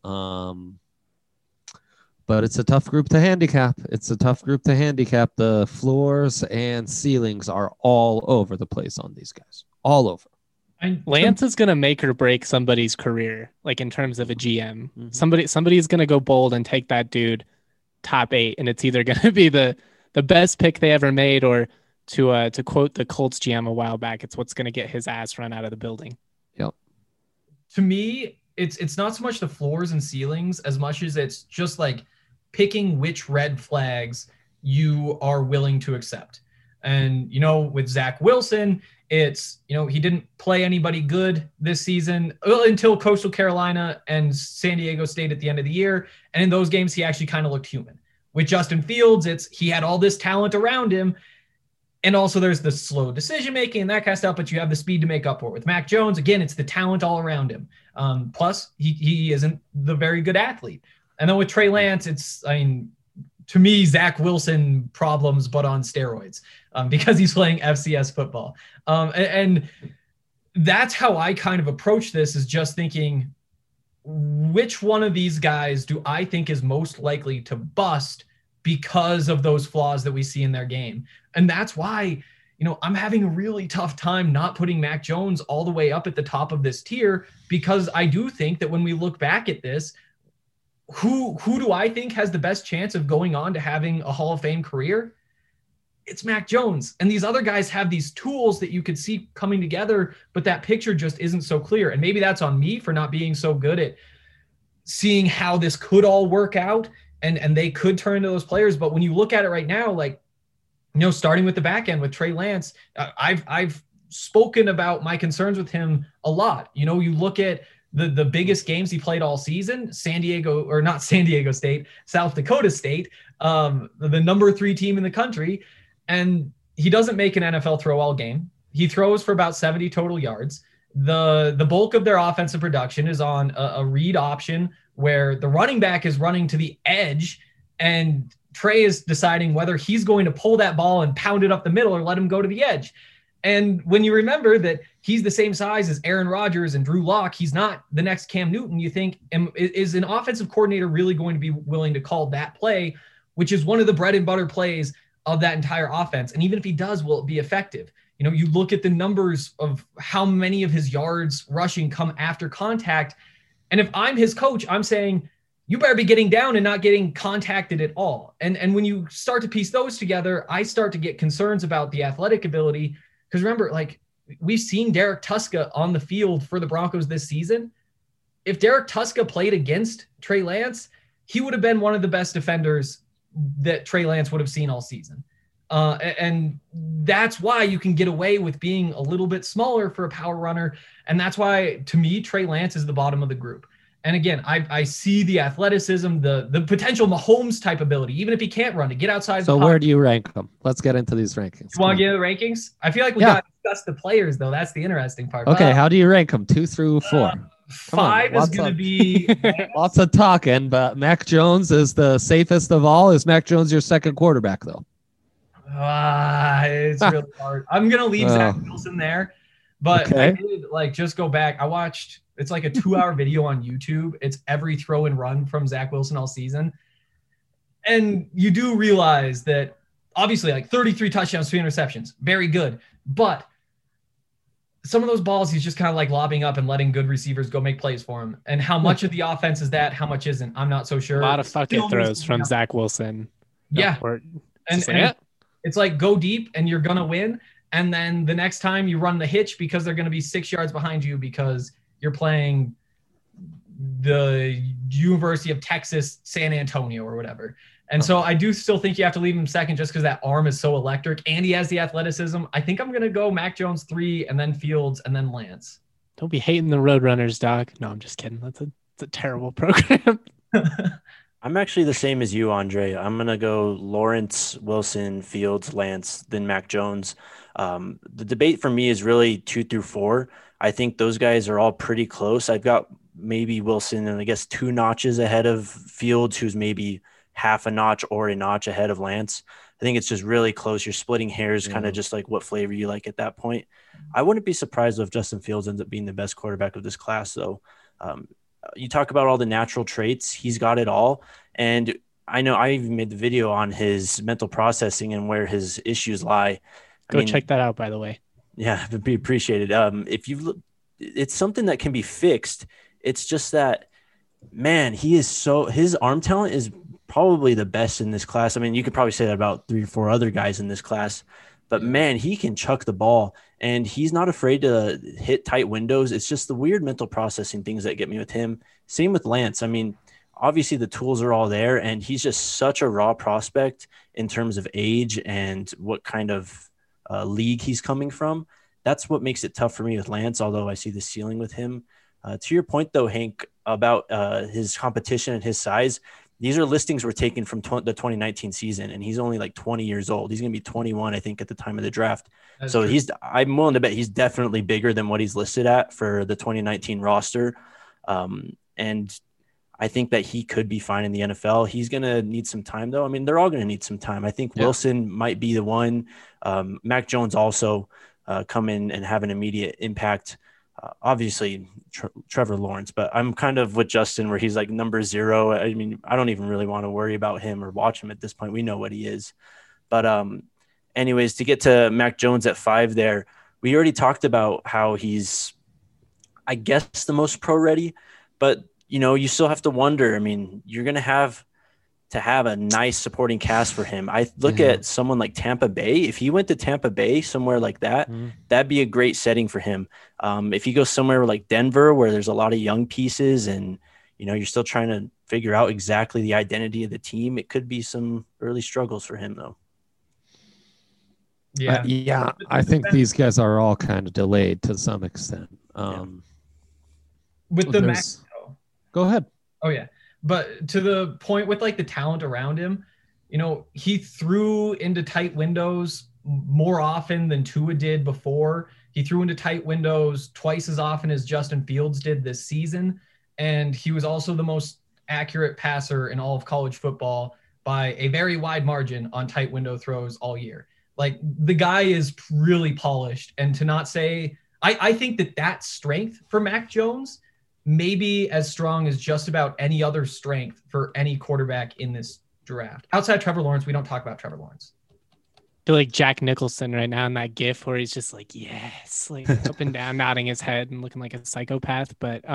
But it's a tough group to handicap. The floors and ceilings are all over the place on these guys. All over. Lance is going to make or break somebody's career, like in terms of a GM. Mm-hmm. Somebody's going to go bold and take that dude top 8, and it's either going to be the best pick they ever made, or to quote the Colts GM a while back, it's what's going to get his ass run out of the building. Yep. To me, it's not so much the floors and ceilings as much as it's just like picking which red flags you are willing to accept. And, with Zach Wilson, it's, he didn't play anybody good this season until Coastal Carolina and San Diego State at the end of the year. And in those games, he actually kind of looked human. With Justin Fields, he had all this talent around him. And also there's the slow decision-making and that kind of stuff, but you have the speed to make up for it. With Mac Jones, again, it's the talent all around him. Plus, he isn't the very good athlete. And then with Trey Lance, to me, Zach Wilson problems, but on steroids, because he's playing FCS football. And that's how I kind of approach this, is just thinking, which one of these guys do I think is most likely to bust because of those flaws that we see in their game? And that's why, I'm having a really tough time not putting Mac Jones all the way up at the top of this tier, because I do think that when we look back at this, who do I think has the best chance of going on to having a Hall of Fame career? It's Mac Jones. And these other guys have these tools that you could see coming together, but that picture just isn't so clear. And maybe that's on me for not being so good at seeing how this could all work out, and they could turn into those players. But when you look at it right now, starting with the back end with Trey Lance, I've spoken about my concerns with him a lot. You know, you look at the biggest games he played all season, South Dakota State, the number 3 team in the country. And he doesn't make an NFL throw all game. He throws for about 70 total yards. The bulk of their offensive production is on a read option where the running back is running to the edge and Trey is deciding whether he's going to pull that ball and pound it up the middle or let him go to the edge. And when you remember that he's the same size as Aaron Rodgers and Drew Lock, he's not the next Cam Newton, you think, is an offensive coordinator really going to be willing to call that play, which is one of the bread and butter plays of that entire offense? And even if he does, will it be effective? You know, you look at the numbers of how many of his yards rushing come after contact. And if I'm his coach, I'm saying, you better be getting down and not getting contacted at all. And when you start to piece those together, I start to get concerns about the athletic ability. Because remember, like, we've seen Derek Tuska on the field for the Broncos this season. If Derek Tuska played against Trey Lance, he would have been one of the best defenders that Trey Lance would have seen all season. And that's why you can get away with being a little bit smaller for a power runner. And that's why, to me, Trey Lance is the bottom of the group. And again, I see the athleticism, the potential Mahomes type ability, even if he can't run, to get outside. So where do you rank them? Let's get into these rankings. You want to get into the rankings? I feel like we got to discuss the players, though. That's the interesting part. Okay, how do you rank them? 2 through 4? 5 is going to be... Lots of talking, but Mac Jones is the safest of all. Is Mac Jones your second quarterback, though? It's really hard. I'm going to leave Zach Wilson there. But okay. I did just go back. I watched... It's like a 2-hour video on YouTube. It's every throw and run from Zach Wilson all season. And you do realize that obviously 33 touchdowns, 3 interceptions, very good. But some of those balls, he's just kind of lobbing up and letting good receivers go make plays for him. And how much of the offense is that? How much isn't? I'm not so sure. A lot of fucking throws from Zach Wilson. Yeah. And it's like, go deep and you're going to win. And then the next time you run the hitch because they're going to be 6 yards behind you because you're playing the University of Texas, San Antonio or whatever. And so I do still think you have to leave him second just because that arm is so electric and he has the athleticism. I think I'm going to go Mac Jones 3 and then Fields and then Lance. Don't be hating the Roadrunners, Doc. No, I'm just kidding. That's a terrible program. I'm actually the same as you, Andre. I'm going to go Lawrence, Wilson, Fields, Lance, then Mac Jones. The debate for me is really 2 through 4. I think those guys are all pretty close. I've got maybe Wilson and I guess 2 notches ahead of Fields, who's maybe half a notch or a notch ahead of Lance. I think it's just really close. You're splitting hairs, kind of just like what flavor you like at that point. I wouldn't be surprised if Justin Fields ends up being the best quarterback of this class, though. You talk about all the natural traits. He's got it all. And I know I even made the video on his mental processing and where his issues lie. Go check that out, by the way. Yeah, it'd be appreciated. If you look, it's something that can be fixed. It's just that, man, his arm talent is probably the best in this class. I mean, you could probably say that about 3 or 4 other guys in this class, but man, he can chuck the ball and he's not afraid to hit tight windows. It's just the weird mental processing things that get me with him. Same with Lance. I mean, obviously the tools are all there and he's just such a raw prospect in terms of age and what kind of league he's coming from. That's what makes it tough for me with Lance, although I see the ceiling with him. To your point, though, Hank, about his competition and his size, these are listings were taken from the 2019 season, and he's only 20 years old. He's going to be 21, I think, at the time of the draft. That's so true. I'm willing to bet he's definitely bigger than what he's listed at for the 2019 roster. And I think that he could be fine in the NFL. He's going to need some time, though. I mean, they're all going to need some time. I think Wilson might be the one. Mac Jones also come in and have an immediate impact. Obviously, Trevor Lawrence, but I'm kind of with Justin where he's number 0. I mean, I don't even really want to worry about him or watch him at this point. We know what he is. But anyways, to get to Mac Jones at 5 there, we already talked about how he's, I guess, the most pro ready, but you still have to wonder. I mean, you're going to have a nice supporting cast for him. I look at someone like Tampa Bay. If he went to Tampa Bay, somewhere like that, that'd be a great setting for him. If he goes somewhere like Denver, where there's a lot of young pieces and, you're still trying to figure out exactly the identity of the team, it could be some early struggles for him, though. Yeah. Yeah, I think these guys are all kind of delayed to some extent. With the Mac, there's- Go ahead. oh yeah, but to the point with like the talent around him, he threw into tight windows more often than Tua did before. He threw into tight windows twice as often as Justin Fields did this season, and he was also the most accurate passer in all of college football by a very wide margin on tight window throws all year. Like, the guy is really polished, and to not say, I think that strength for Mac Jones may be as strong as just about any other strength for any quarterback in this draft. Outside Trevor Lawrence, we don't talk about Trevor Lawrence. I feel like Jack Nicholson right now in that gif where he's just like, yes, like up and down, nodding his head and looking like a psychopath. But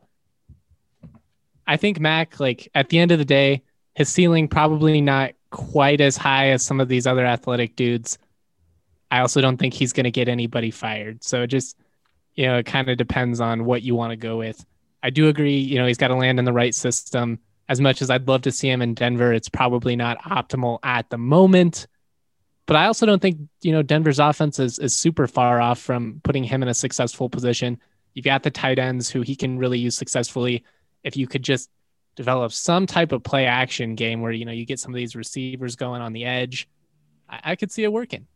I think Mac, like, at the end of the day, his ceiling probably not quite as high as some of these other athletic dudes. I also don't think he's going to get anybody fired. So it just, it kind of depends on what you want to go with. I do agree, he's got to land in the right system. As much as I'd love to see him in Denver, it's probably not optimal at the moment. But I also don't think, Denver's offense is super far off from putting him in a successful position. You've got the tight ends who he can really use successfully. If you could just develop some type of play action game where, you get some of these receivers going on the edge, I could see it working.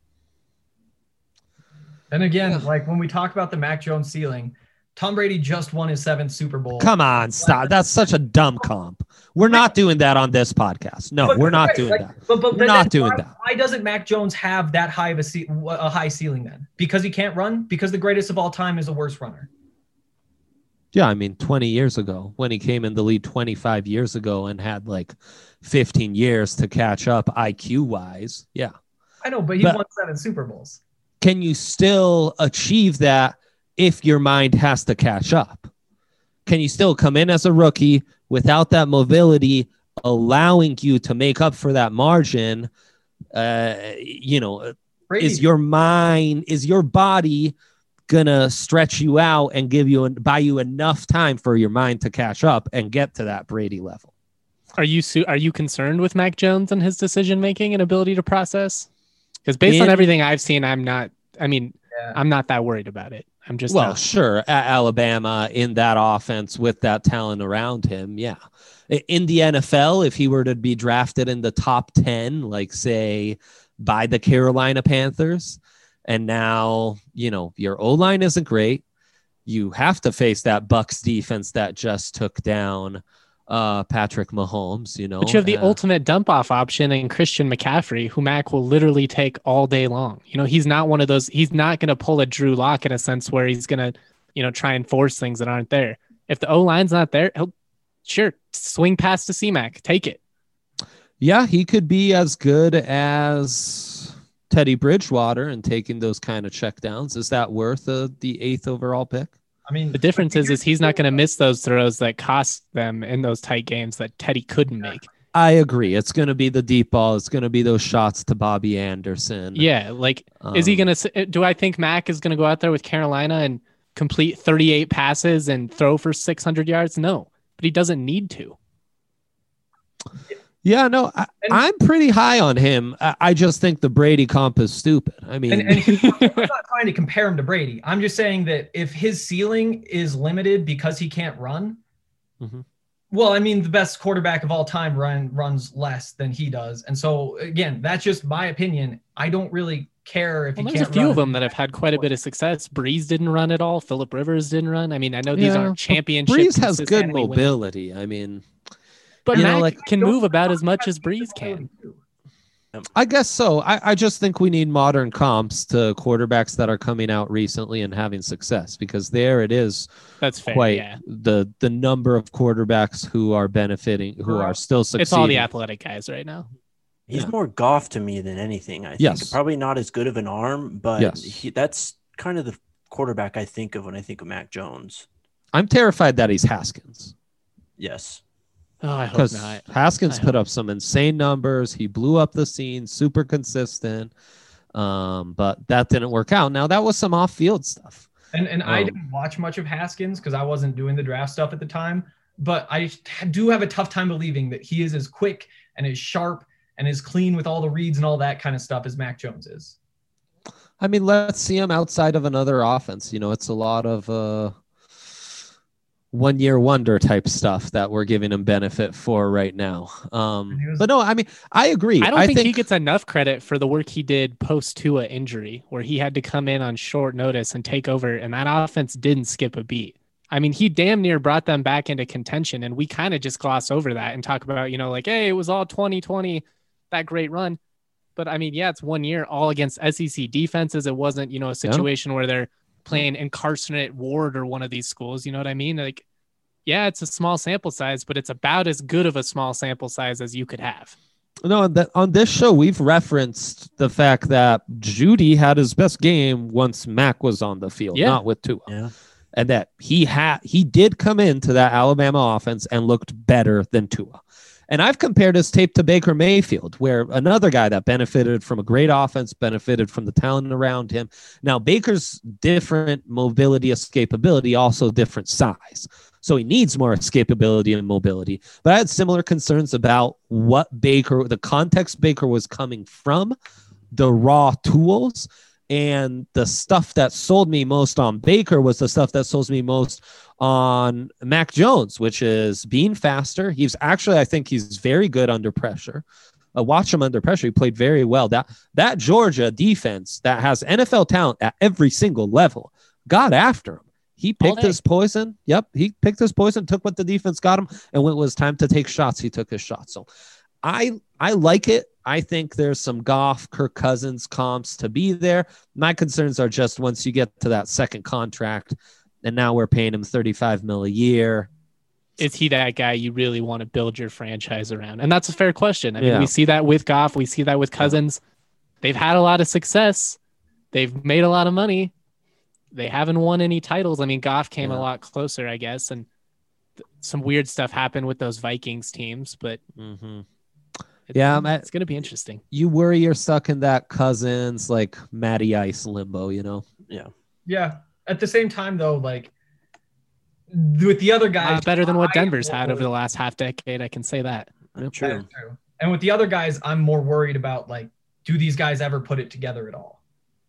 And again, like when we talk about the Mac Jones ceiling, Tom Brady just won his 7th Super Bowl. Come on, stop. That's such a dumb comp. We're not doing that on this podcast. No, we're not doing that. We're not doing that. Why doesn't Mac Jones have that high of a high ceiling then? Because he can't run? Because the greatest of all time is a worse runner? Yeah, I mean, 20 years ago, when he came in the league 25 years ago and had like 15 years to catch up IQ-wise. Yeah. I know, but he won 7 Super Bowls. Can you still achieve that if your mind has to catch up? Can you still come in as a rookie without that mobility, allowing you to make up for that margin? Brady. Is your body gonna stretch you out and buy you enough time for your mind to catch up and get to that Brady level? Are you concerned with Mac Jones and his decision making and ability to process? Because based on everything I've seen, I'm not that worried about it. I'm just sure, at Alabama in that offense with that talent around him, yeah. In the NFL, if he were to be drafted in the top 10, like say by the Carolina Panthers, and now your O-line isn't great, you have to face that Bucs defense that just took down Patrick Mahomes, But you have the ultimate dump-off option in Christian McCaffrey, who Mac will literally take all day long. He's not one of those. He's not going to pull a Drew Lock in a sense where he's going to, try and force things that aren't there. If the O-line's not there, he'll swing past to C-Mac. Take it. Yeah, he could be as good as Teddy Bridgewater and taking those kind of checkdowns. Is that worth the 8th overall pick? I mean, the difference is he's not going to miss those throws that cost them in those tight games that Teddy couldn't make. I agree. It's going to be the deep ball. It's going to be those shots to Bobby Anderson. Yeah. Like, is he going to, do I think Mac is going to go out there with Carolina and complete 38 passes and throw for 600 yards? No, but he doesn't need to. Yeah, no, I'm pretty high on him. I just think the Brady comp is stupid. I mean, and I'm not trying to compare him to Brady. I'm just saying that if his ceiling is limited because he can't run, well, I mean, the best quarterback of all time runs less than he does. And so, again, that's just my opinion. I don't really care if he can't run. There's a few of them that have had quite a bit of success. Breeze didn't run at all. Phillip Rivers didn't run. I mean, I know these aren't championships. Breeze has good mobility. I mean... But Mac can move about as much as Breeze can. I guess so. I just think we need modern comps to quarterbacks that are coming out recently and having success, because there it is. That's fair. The number of quarterbacks who are benefiting, who are still succeeding. It's all the athletic guys right now. He's more Goff to me than anything. I think probably not as good of an arm, but that's kind of the quarterback I think of when I think of Mac Jones. I'm terrified that he's Haskins. Yes. Oh, I hope not. Haskins put up some insane numbers. He blew up the scene, super consistent. But that didn't work out. Now, that was some off-field stuff. And I didn't watch much of Haskins because I wasn't doing the draft stuff at the time. But I do have a tough time believing that he is as quick and as sharp and as clean with all the reads and all that kind of stuff as Mac Jones is. I mean, let's see him outside of another offense. It's a lot of 1-year wonder type stuff that we're giving him benefit for right now. But no, I mean, I agree. I don't think he gets enough credit for the work he did post Tua injury, where he had to come in on short notice and take over, and that offense didn't skip a beat. I mean, he damn near brought them back into contention, and we kind of just gloss over that and talk about, like, hey, it was all 2020, that great run. But I mean, yeah, it's 1 year all against SEC defenses. It wasn't, a situation where they're playing Incarcerate Ward or one of these schools. You know what I mean? Like, yeah, it's a small sample size, but it's about as good of a small sample size as you could have. No, on this show, we've referenced the fact that Judy had his best game once Mac was on the field, not with Tua. Yeah. And that he did come into that Alabama offense and looked better than Tua. And I've compared his tape to Baker Mayfield, where another guy that benefited from a great offense, benefited from the talent around him. Now, Baker's different mobility, escapability, also different size. So he needs more escapability and mobility. But I had similar concerns about the context Baker was coming from, the raw tools. And the stuff that sold me most on Baker was the stuff that sold me most on Mac Jones, which is being faster. I think he's very good under pressure. Watch him under pressure. He played very well. That Georgia defense that has NFL talent at every single level got after him. He picked his poison. Yep, he picked his poison, took what the defense got him, and when it was time to take shots, he took his shots. So I like it. I think there's some Goff, Kirk Cousins comps to be there. My concerns are just once you get to that second contract, and now we're paying him $35 million a year. Is he that guy you really want to build your franchise around? And that's a fair question. I mean, we see that with Goff. We see that with Cousins. They've had a lot of success. They've made a lot of money. They haven't won any titles. I mean, Goff came a lot closer, I guess, and some weird stuff happened with those Vikings teams, but it's going to be interesting. You worry you're stuck in that Cousins, like Matty Ice limbo, Yeah. Yeah. At the same time, though, like with the other guys, better than what Denver's had over the last half decade. I can say that. True. And with the other guys, I'm more worried about, like, do these guys ever put it together at all?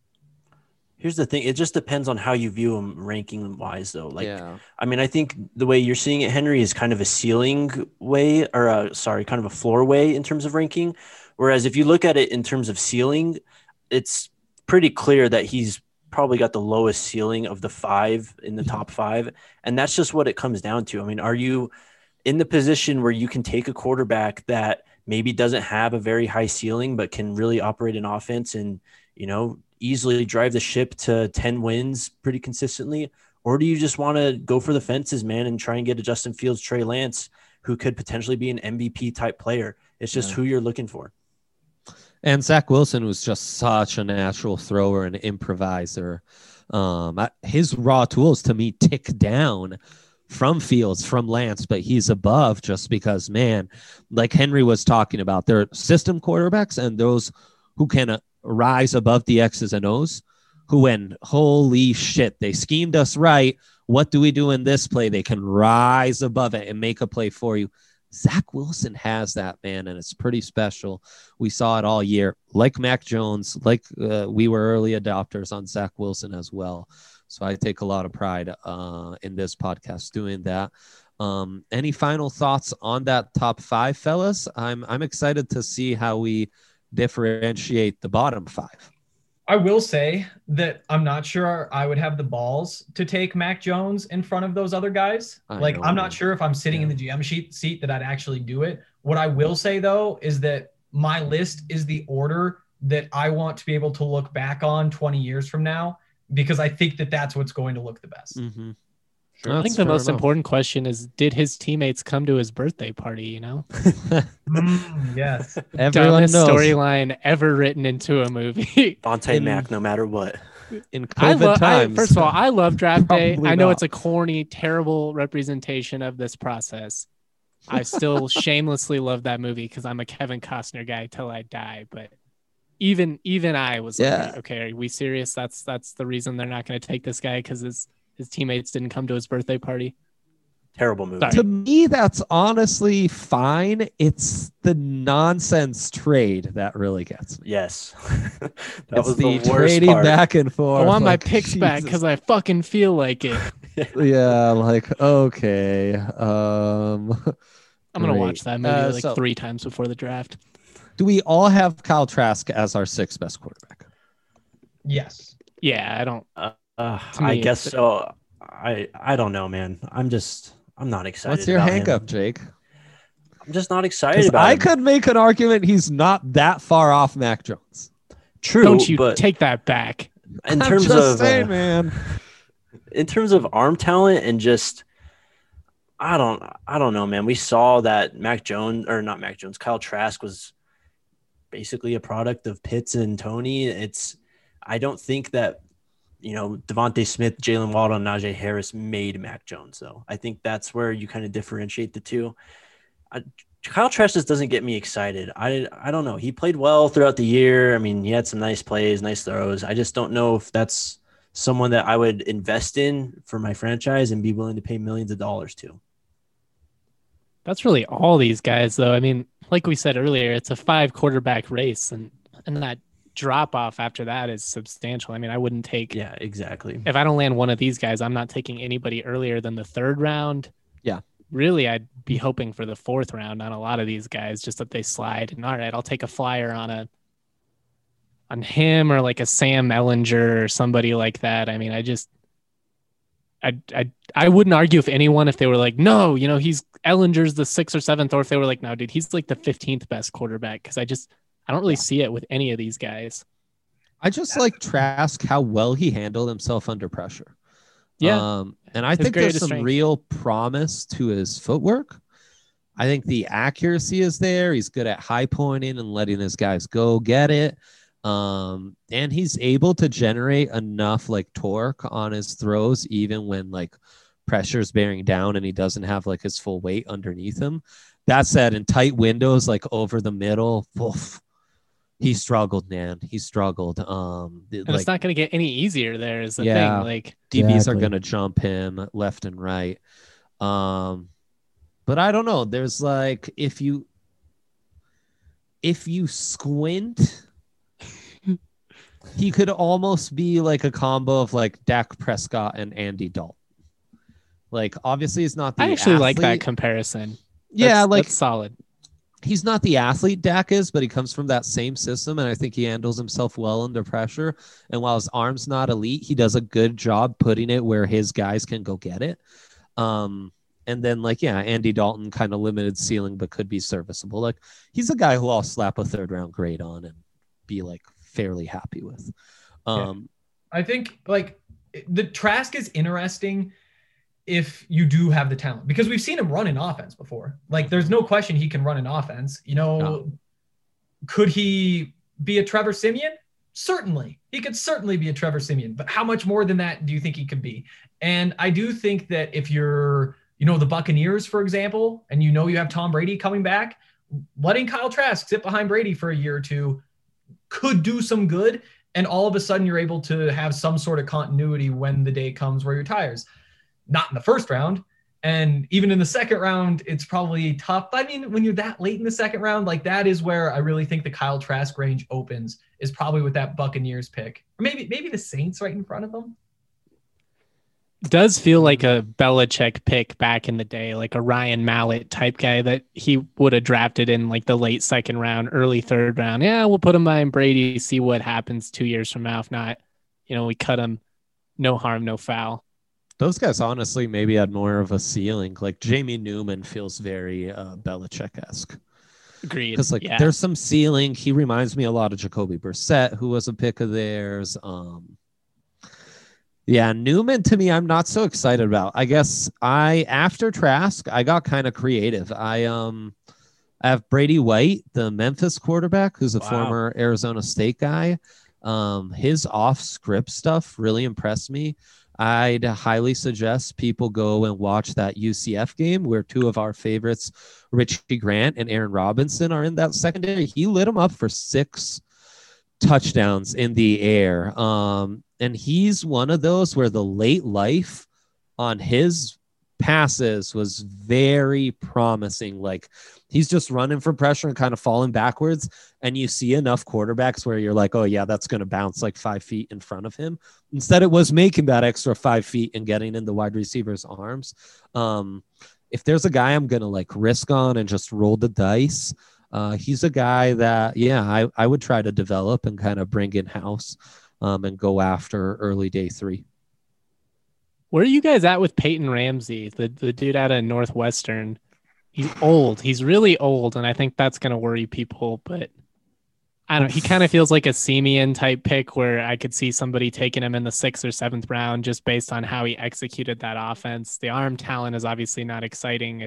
Here's the thing. It just depends on how you view them ranking wise, though. I mean, I think the way you're seeing it, Henry, is kind of a ceiling way, or kind of a floor way in terms of ranking. Whereas if you look at it in terms of ceiling, it's pretty clear that he's probably got the lowest ceiling of the 5 in the top 5. And that's just what it comes down to. I mean, are you in the position where you can take a quarterback that maybe doesn't have a very high ceiling, but can really operate an offense and, easily drive the ship to 10 wins pretty consistently? Or do you just want to go for the fences, man, and try and get a Justin Fields, Trey Lance, who could potentially be an MVP type player? It's just who you're looking for. And Zach Wilson was just such a natural thrower and improviser. His raw tools to me tick down from Fields, from Lance, but he's above just because, man, like Henry was talking about, there are system quarterbacks and those who can rise above the X's and O's, who when holy shit, they schemed us right. What do we do in this play? They can rise above it and make a play for you. Zach Wilson has that, man, and it's pretty special. We saw it all year, like Mac Jones, like we were early adopters on Zach Wilson as well. So I take a lot of pride in this podcast doing that. Any final thoughts on that top 5, fellas? I'm excited to see how we differentiate the bottom 5. I will say that I'm not sure I would have the balls to take Mac Jones in front of those other guys. I'm not sure if I'm sitting in the GM seat that I'd actually do it. What I will say, though, is that my list is the order that I want to be able to look back on 20 years from now, because I think that that's what's going to look the best. Mm-hmm. Sure. I think the most important question is, did his teammates come to his birthday party, Yes. Everyone knows. Storyline ever written into a movie. Bonte Mac, no matter what. In COVID times. First of all, I love draft day. I know not. it's a corny, terrible representation of this process. I still shamelessly love that movie because I'm a Kevin Costner guy till I die. But even I was like, okay, are we serious? That's the reason they're not going to take this guy, because his teammates didn't come to his birthday party. Terrible movie. Sorry. To me, that's honestly fine. It's the nonsense trade that really gets me. Yes. that It's was the the worst trading part. back and forth. I want my like, picks back Jesus. because I fucking feel like it. Yeah, like okay. I'm gonna Great. watch that movie So- 3 times before the draft. Do we all have Kyle Trask as our 6th best quarterback? Yes. Yeah, I don't. I me, guess so. I don't know, man. I'm not excited. What's your about hang him. up, Jake? I'm just not excited Because about I him. could make an argument he's not that far off Mac Jones. True, Don't you but take that back? in I'm terms just of saying, man. in terms of arm talent and just I don't know, man. We saw that Kyle Trask was basically a product of Pitts and Tony. I don't think that Devontae Smith, Jalen Waddle, and Najee Harris made Mac Jones, though. I think that's where you kind of differentiate the two. Kyle Trask just doesn't get me excited. I don't know. He played well throughout the year. I mean, he had some nice plays, nice throws. I just don't know if that's someone that I would invest in for my franchise and be willing to pay millions of dollars to. That's really all these guys, though. I mean, like we said earlier, it's a 5 quarterback race, and that drop off after that is substantial. I mean, I wouldn't take. Yeah, exactly. If I don't land one of these guys, I'm not taking anybody earlier than the 3rd round. Yeah. Really, I'd be hoping for the 4th round on a lot of these guys, just that they slide. And all right, I'll take a flyer on him or like a Sam Ellinger or somebody like that. I mean, I wouldn't argue if they were like, no, he's Ellinger's the 6th or 7th, or if they were like, no, dude, he's like the 15th best quarterback. Cause I don't really see it with any of these guys. I just like Trask how well he handled himself under pressure. Yeah. And I His think there's greatest some strength. real promise to his footwork. I think the accuracy is there. He's good at high pointing and letting his guys go get it. And he's able to generate enough like torque on his throws, even when like pressure's bearing down and he doesn't have like his full weight underneath him. That said, in tight windows, like over the middle, he struggled, man. He struggled. And it's not going to get any easier there is the Yeah. thing. Like, DBs are Exactly. going to jump him left and right. But I don't know. There's like, if you squint, he could almost be like a combo of like Dak Prescott and Andy Dalton. Like, obviously he's not the I actually like that athlete. comparison. Yeah, That's solid. He's not the athlete Dak is, but he comes from that same system, and I think he handles himself well under pressure. And while his arm's not elite, he does a good job putting it where his guys can go get it. And then, like, yeah, Andy Dalton, kind of limited ceiling, but could be serviceable. Like, he's a guy who I'll slap a 3rd-round grade on and be, like, fairly happy with. I think, like, the Trask is interesting if you do have the talent, because we've seen him run in offense before. Like, there's no question he can run in offense. No. Could he be a Trevor Siemian? Certainly. He could certainly be a Trevor Siemian, but how much more than that do you think he could be? And I do think that if you're, the Buccaneers, for example, and you have Tom Brady coming back, letting Kyle Trask sit behind Brady for a year or two could do some good. And all of a sudden you're able to have some sort of continuity when the day comes where he retires. Not in the 1st round. And even in the 2nd round, it's probably tough. I mean, when you're that late in the 2nd round, like, that is where I really think the Kyle Trask range opens, is probably with that Buccaneers pick. Or maybe the Saints right in front of them. Does feel like a Belichick pick back in the day, like a Ryan Mallett type guy that he would have drafted in like the late 2nd round, early 3rd round. Yeah, we'll put him behind Brady, see what happens 2 years from now. If not, we cut him. No harm, no foul. Those guys, honestly, maybe had more of a ceiling. Like, Jamie Newman feels very Belichick-esque. Agreed. Because, like, Yeah. there's some ceiling. He reminds me a lot of Jacoby Brissett, who was a pick of theirs. Yeah, Newman, to me, I'm not so excited about. I guess after Trask, I got kind of creative. I have Brady White, the Memphis quarterback, who's a Wow. former Arizona State guy. His off-script stuff really impressed me. I'd highly suggest people go and watch that UCF game where 2 of our favorites, Richie Grant and Aaron Robinson, are in that secondary. He lit them up for 6 touchdowns in the air. And he's one of those where the late life on his passes was very promising. Like he's just running for pressure and kind of falling backwards. And you see enough quarterbacks where you're like, oh yeah, that's going to bounce like 5 feet in front of him. Instead, it was making that extra 5 feet and getting in the wide receiver's arms. If there's a guy I'm going to like risk on and just roll the dice, he's a guy that, yeah, I would try to develop and kind of bring in house and go after early day 3. Where are you guys at with Peyton Ramsey, the dude out of Northwestern? He's old. He's really old, and I think that's going to worry people. But I don't know. He kind of feels like a Simeon type pick where I could see somebody taking him in the 6th or 7th round just based on how he executed that offense. The arm talent is obviously not exciting.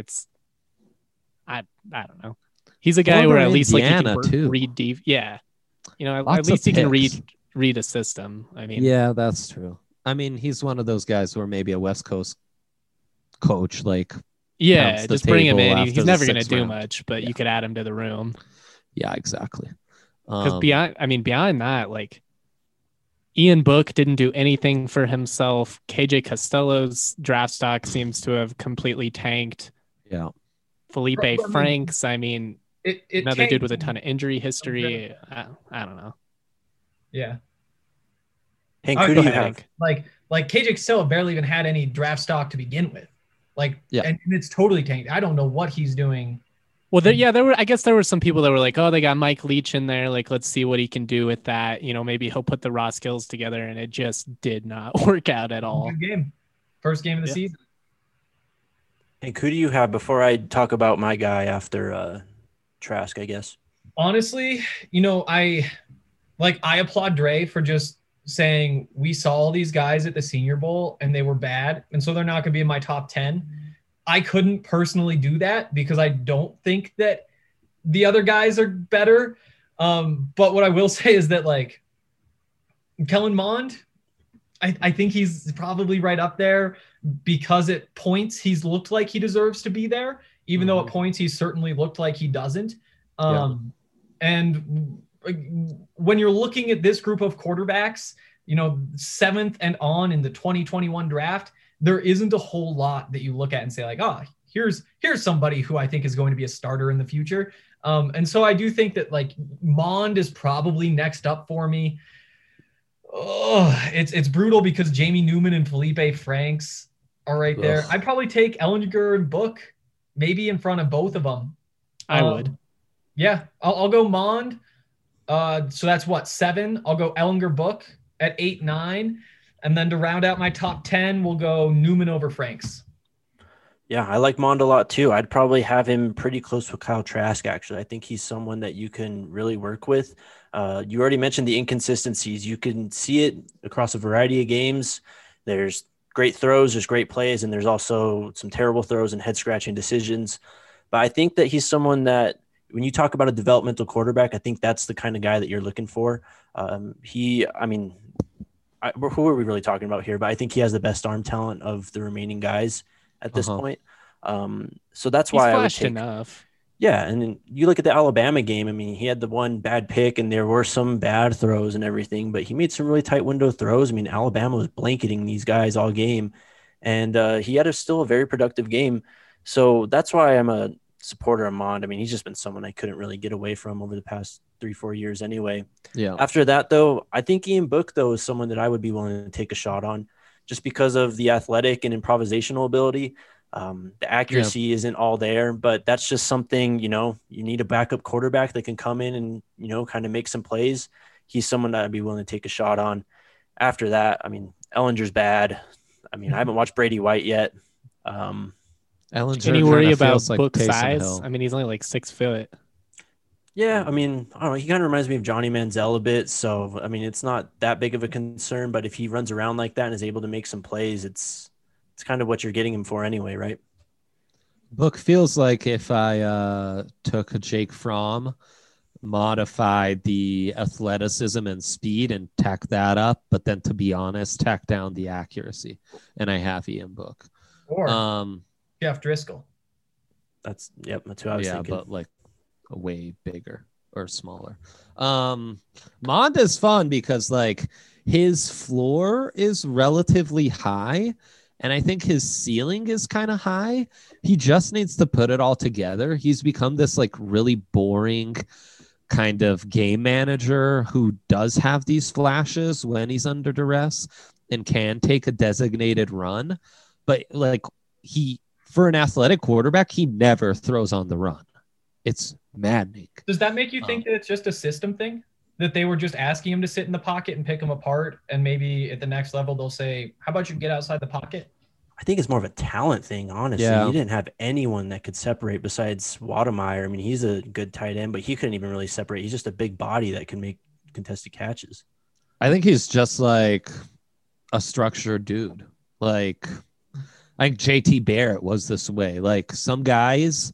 I don't know. He's a guy where at least Indiana, like he can read deep. Yeah. You know, at least he can read a system. I mean, yeah, that's true. I mean, he's one of those guys where maybe a West Coast coach, like, yeah, just bring him in. He's never going to do round. much, but you could add him to the room. Yeah, exactly. Because beyond that, like Ian Book didn't do anything for himself. KJ Costello's draft stock seems to have completely tanked. Yeah. Felipe Franks, I mean, another tanked. dude with a ton of injury history. I don't know. Yeah. Hank, who do you have? Like KJ Costello barely even had any draft stock to begin with. Like, yeah. And it's totally tanked. I don't know what he's doing. Well, there were some people that were like, oh, they got Mike Leach in there. Like, let's see what he can do with that. You know, maybe he'll put the raw skills together, and it just did not work out at all. Good game. First game of the season. Hank, who do you have before I talk about my guy after Trask, I guess? Honestly, you know, I applaud Dre for just saying we saw all these guys at the Senior Bowl and they were bad, and so they're not going to be in my top 10. I couldn't personally do that because I don't think that the other guys are better. But what I will say is that, like, Kellen Mond, I think he's probably right up there because at points he's looked like he deserves to be there, even though at points he certainly looked like he doesn't. And when you're looking at this group of quarterbacks, you know, 7th and on in the 2021 draft, there isn't a whole lot that you look at and say like, oh, here's somebody who I think is going to be a starter in the future. And so I do think that like Mond is probably next up for me. Oh, it's brutal because Jamie Newman and Felipe Franks are right there. I'd probably take Ellinger and Book maybe in front of both of them. I would. Yeah, I'll go Mond. So that's what, 7. I'll go Ellinger, Book at 8, 9. And then to round out my top 10, we'll go Newman over Franks. Yeah, I like Mond a lot too. I'd probably have him pretty close with Kyle Trask, actually. I think he's someone that you can really work with. You already mentioned the inconsistencies. You can see it across a variety of games. There's great throws, there's great plays, and there's also some terrible throws and head-scratching decisions. But I think that he's someone that, when you talk about a developmental quarterback, I think that's the kind of guy that you're looking for. Who are we really talking about here? But I think he has the best arm talent of the remaining guys at this point. So that's why I would take enough. Yeah, and then you look at the Alabama game. I mean, he had the one bad pick, and there were some bad throws and everything, but he made some really tight window throws. I mean, Alabama was blanketing these guys all game, and he had still a very productive game. So that's why I'm a supporter of Mond. I mean, he's just been someone I couldn't really get away from over the past 3-4 years anyway. Yeah. After that, though, I think Ian Book, though, is someone that I would be willing to take a shot on just because of the athletic and improvisational ability. The accuracy isn't all there, but that's just something, you know, you need a backup quarterback that can come in and, you know, kind of make some plays. He's someone that I'd be willing to take a shot on. After that, I mean, Ellinger's bad. I mean, I haven't watched Brady White yet. Ellinger, can you worry about like Book size? I mean, he's only like 6 foot. Yeah, I mean, I don't know. He kind of reminds me of Johnny Manziel a bit. So, I mean, it's not that big of a concern, but if he runs around like that and is able to make some plays, it's kind of what you're getting him for anyway, right? Book feels like if I took Jake Fromm, modified the athleticism and speed and tack that up, but then to be honest, tack down the accuracy. And I have Ian Book. Or Jeff Driscoll. That's who I was thinking. Yeah, but like way bigger or smaller. Mond is fun because like his floor is relatively high And I think his ceiling is kind of high. He just needs to put it all together. He's become this like really boring kind of game manager who does have these flashes when he's under duress and can take a designated run. But like for an athletic quarterback, he never throws on the run. It's maddening. Does that make you think that it's just a system thing? That they were just asking him to sit in the pocket and pick him apart, and maybe at the next level they'll say, how about you get outside the pocket? I think it's more of a talent thing, honestly. Yeah. He didn't have anyone that could separate besides Wademeyer. I mean, he's a good tight end, but he couldn't even really separate. He's just a big body that can make contested catches. I think he's just like a structured dude. Like, I think JT Barrett was this way. Like, some guys,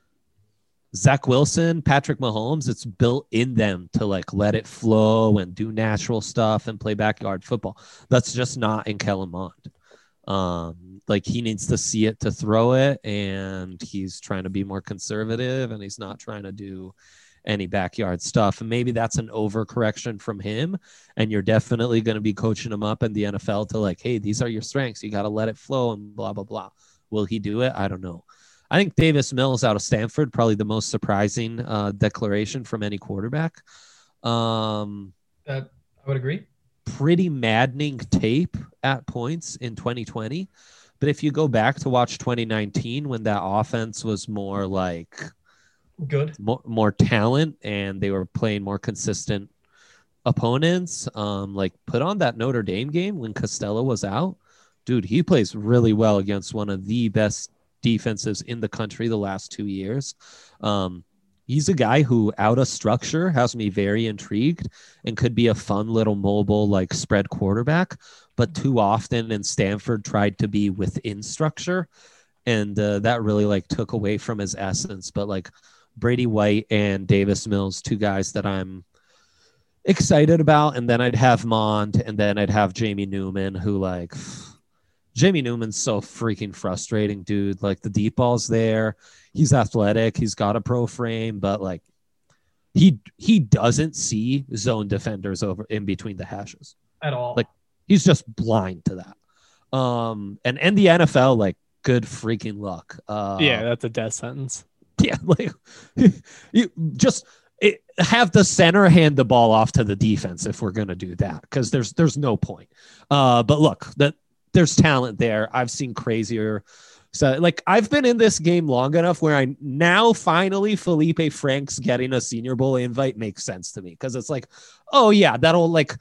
Zach Wilson, Patrick Mahomes, it's built in them to like let it flow and do natural stuff and play backyard football. That's just not in Kellen Mond. Like, he needs to see it to throw it, and he's trying to be more conservative, and he's not trying to do any backyard stuff. And maybe that's an overcorrection from him, and you're definitely going to be coaching him up in the NFL to like, hey, these are your strengths. You got to let it flow and blah, blah, blah. Will he do it? I don't know. I think Davis Mills out of Stanford, probably the most surprising declaration from any quarterback. I would agree. Pretty maddening tape at points in 2020. But if you go back to watch 2019, when that offense was more like good, more talent, and they were playing more consistent opponents, like put on that Notre Dame game when Costello was out. Dude, he plays really well against one of the best defenses in the country the last 2 years. He's a guy who, out of structure, has me very intrigued and could be a fun little mobile, like spread quarterback. But too often in Stanford tried to be within structure, and that really like took away from his essence. But like Brady White and Davis Mills, two guys that I'm excited about. And then I'd have Mond, and then I'd have Jamie Newman, who like Jamie Newman's so freaking frustrating, dude. Like, the deep ball's there. He's athletic. He's got a pro frame, but like he doesn't see zone defenders over in between the hashes at all. Like, he's just blind to that. And in the NFL, like, good freaking luck. Yeah, that's a death sentence. Yeah, like you just have the center hand the ball off to the defense if we're gonna do that, because there's no point. But look, there's talent there. I've seen crazier. So, like, I've been in this game long enough where I now finally Felipe Franks getting a Senior Bowl invite makes sense to me, because it's like, oh yeah, that'll like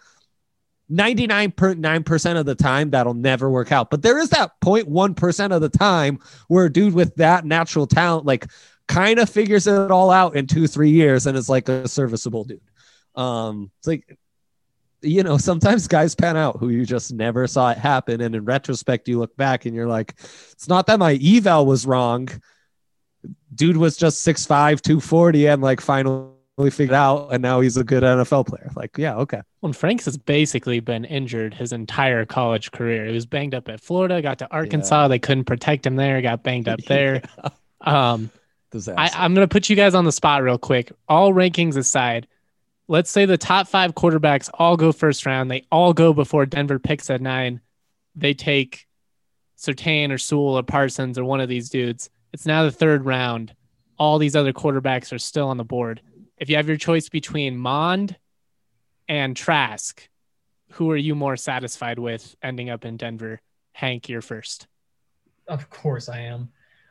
99.9% of the time that'll never work out. But there is that 0.1% of the time where a dude with that natural talent like kind of figures it all out in 2-3 years and is like a serviceable dude. It's like, you know, sometimes guys pan out who you just never saw it happen. And in retrospect, you look back and you're like, it's not that my eval was wrong. Dude was just 6'5", 240 and like finally figured out. And now he's a good NFL player. Like, yeah, okay. Well, Franks has basically been injured his entire college career. He was banged up at Florida, got to Arkansas. Yeah. They couldn't protect him there, got banged up there. I'm going to put you guys on the spot real quick. All rankings aside, let's say the top 5 quarterbacks all go first round. They all go before Denver picks at 9. They take Surtain or Sewell or Parsons or one of these dudes. It's now the 3rd round. All these other quarterbacks are still on the board. If you have your choice between Mond and Trask, who are you more satisfied with ending up in Denver? Hank, you're first. Of course I am.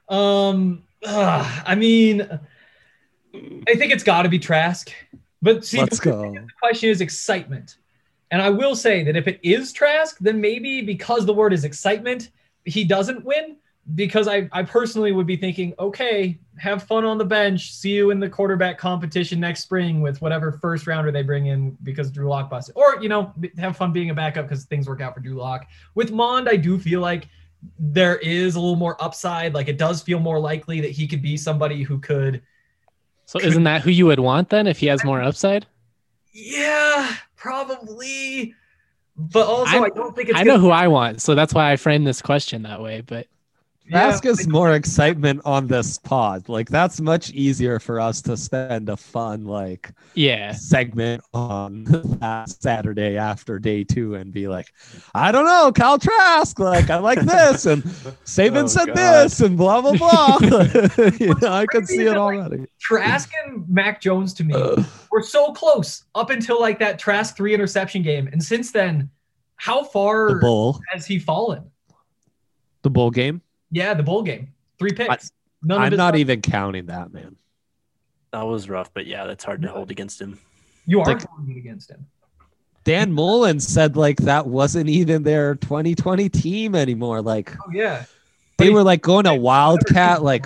I mean, I think it's got to be Trask. But see, the question is excitement. And I will say that if it is Trask, then maybe because the word is excitement, he doesn't win. Because I personally would be thinking, okay, have fun on the bench. See you in the quarterback competition next spring with whatever first rounder they bring in because Drew Lock busted. Or, you know, have fun being a backup because things work out for Drew Lock. With Mond, I do feel like there is a little more upside. Like, it does feel more likely that he could be somebody who could. So isn't that who you would want then if he has more upside? Yeah, probably. But also, I don't think it's. I know who I want, so that's why I framed this question that way. But Trask is more excitement on this pod. Like that's much easier for us to spend a fun segment on that Saturday after day 2 and be like, I don't know, Kyle Trask, like I like this and Saban said this and blah blah blah. I could see it already. Trask and Mac Jones to me were so close up until like that Trask 3 interception game, and since then, how far has he fallen? The bowl game. Yeah, the bowl game. 3 picks. I'm not even counting that, man. That was rough, but yeah, that's hard to hold against him. You are holding it against him. Dan Mullen said like that wasn't even their 2020 team anymore. Like, oh yeah, they were like going to Wildcat. Like,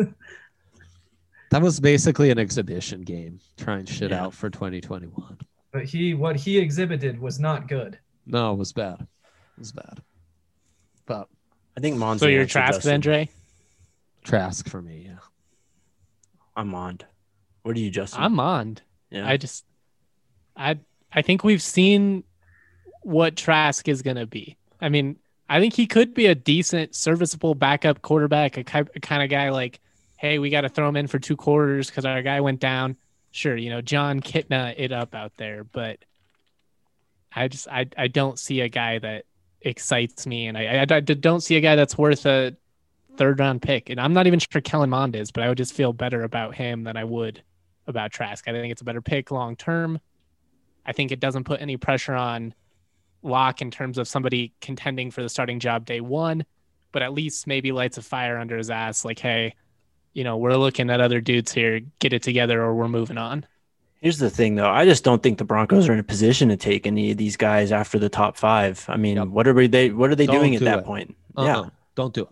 that was basically an exhibition game, trying shit out for 2021. But what he exhibited was not good. No, it was bad. It was bad. But I think Mond's. So you're Trask then, Dre? Trask for me, yeah. I'm Mond. What are you, Justin? I'm Mond. Yeah. I think we've seen what Trask is going to be. I mean, I think he could be a decent, serviceable backup quarterback, a kind of guy like, hey, we got to throw him in for 2 quarters because our guy went down. Sure, John Kitna it up out there, but I don't see a guy that excites me, and I don't see a guy that's worth a 3rd-round pick. And I'm not even sure Kellen Mond is, but I would just feel better about him than I would about Trask. I think it's a better pick long term. I think it doesn't put any pressure on Locke in terms of somebody contending for the starting job day 1, but at least maybe lights a fire under his ass. Like, hey, we're looking at other dudes here. Get it together, or we're moving on. Here's the thing, though. I just don't think the Broncos are in a position to take any of these guys after the top 5. I mean, what are they doing at that point? Yeah, don't do it.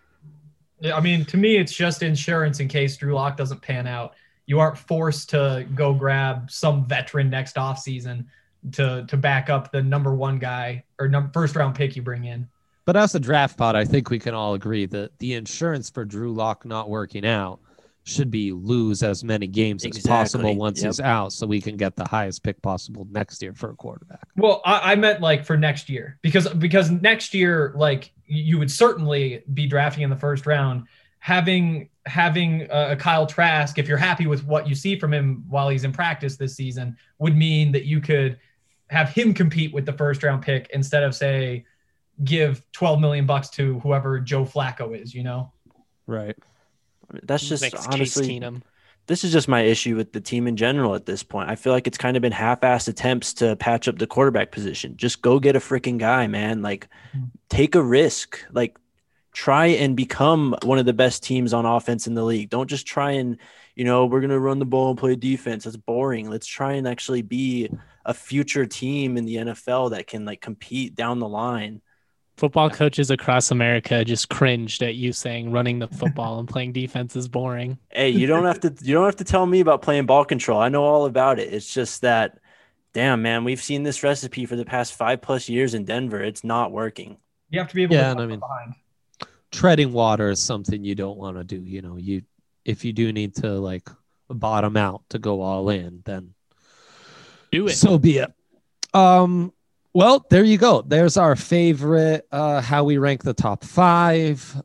I mean, to me, it's just insurance in case Drew Lock doesn't pan out. You aren't forced to go grab some veteran next offseason to back up the number 1 guy or first-round pick you bring in. But as a draft pod, I think we can all agree that the insurance for Drew Lock not working out should be lose as many games as possible once he's out, so we can get the highest pick possible next year for a quarterback. Well, I meant like for next year, because next year, like you would certainly be drafting in the 1st round. Having a Kyle Trask, if you're happy with what you see from him while he's in practice this season, would mean that you could have him compete with the 1st-round pick instead of, say, give $12 million to whoever Joe Flacco is, Right. That's just honestly, this is just my issue with the team in general at this point. I feel like it's kind of been half-assed attempts to patch up the quarterback position. Just go get a freaking guy, man. Like, take a risk. Like, try and become one of the best teams on offense in the league. Don't just try and, we're going to run the ball and play defense. That's boring. Let's try and actually be a future team in the NFL that can like compete down the line. Football coaches across America just cringed at you saying running the football and playing defense is boring. Hey, you don't have to tell me about playing ball control. I know all about it. It's just that, damn, man, we've seen this recipe for the past 5+ years in Denver. It's not working. You have to be able to behind. Treading water is something you don't want to do. If you do need to like bottom out to go all in, then do it. So be it. Well, there you go. There's our favorite, how we rank the top 5,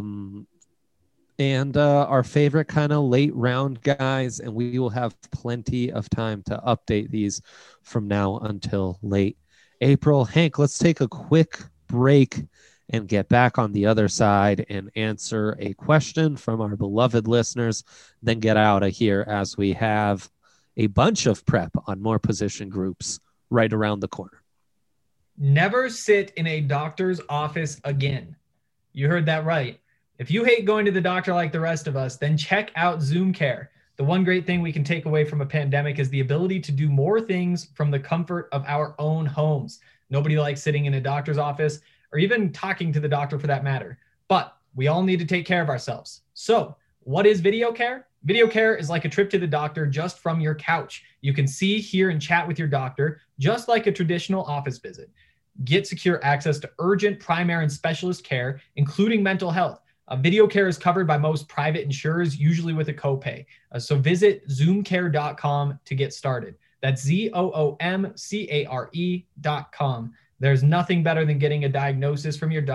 and our favorite kind of late round guys. And we will have plenty of time to update these from now until late April. Hank, let's take a quick break and get back on the other side and answer a question from our beloved listeners, then get out of here as we have a bunch of prep on more position groups right around the corner. Never sit in a doctor's office again. You heard that right. If you hate going to the doctor like the rest of us, then check out Zoom Care. The one great thing we can take away from a pandemic is the ability to do more things from the comfort of our own homes. Nobody likes sitting in a doctor's office or even talking to the doctor for that matter. But we all need to take care of ourselves. So what is video care? Video care is like a trip to the doctor just from your couch. You can see, hear, and chat with your doctor just like a traditional office visit. Get secure access to urgent, primary, and specialist care, including mental health. Video care is covered by most private insurers, usually with a copay. So visit zoomcare.com to get started. That's ZOOMCARE.com. There's nothing better than getting a diagnosis from your doc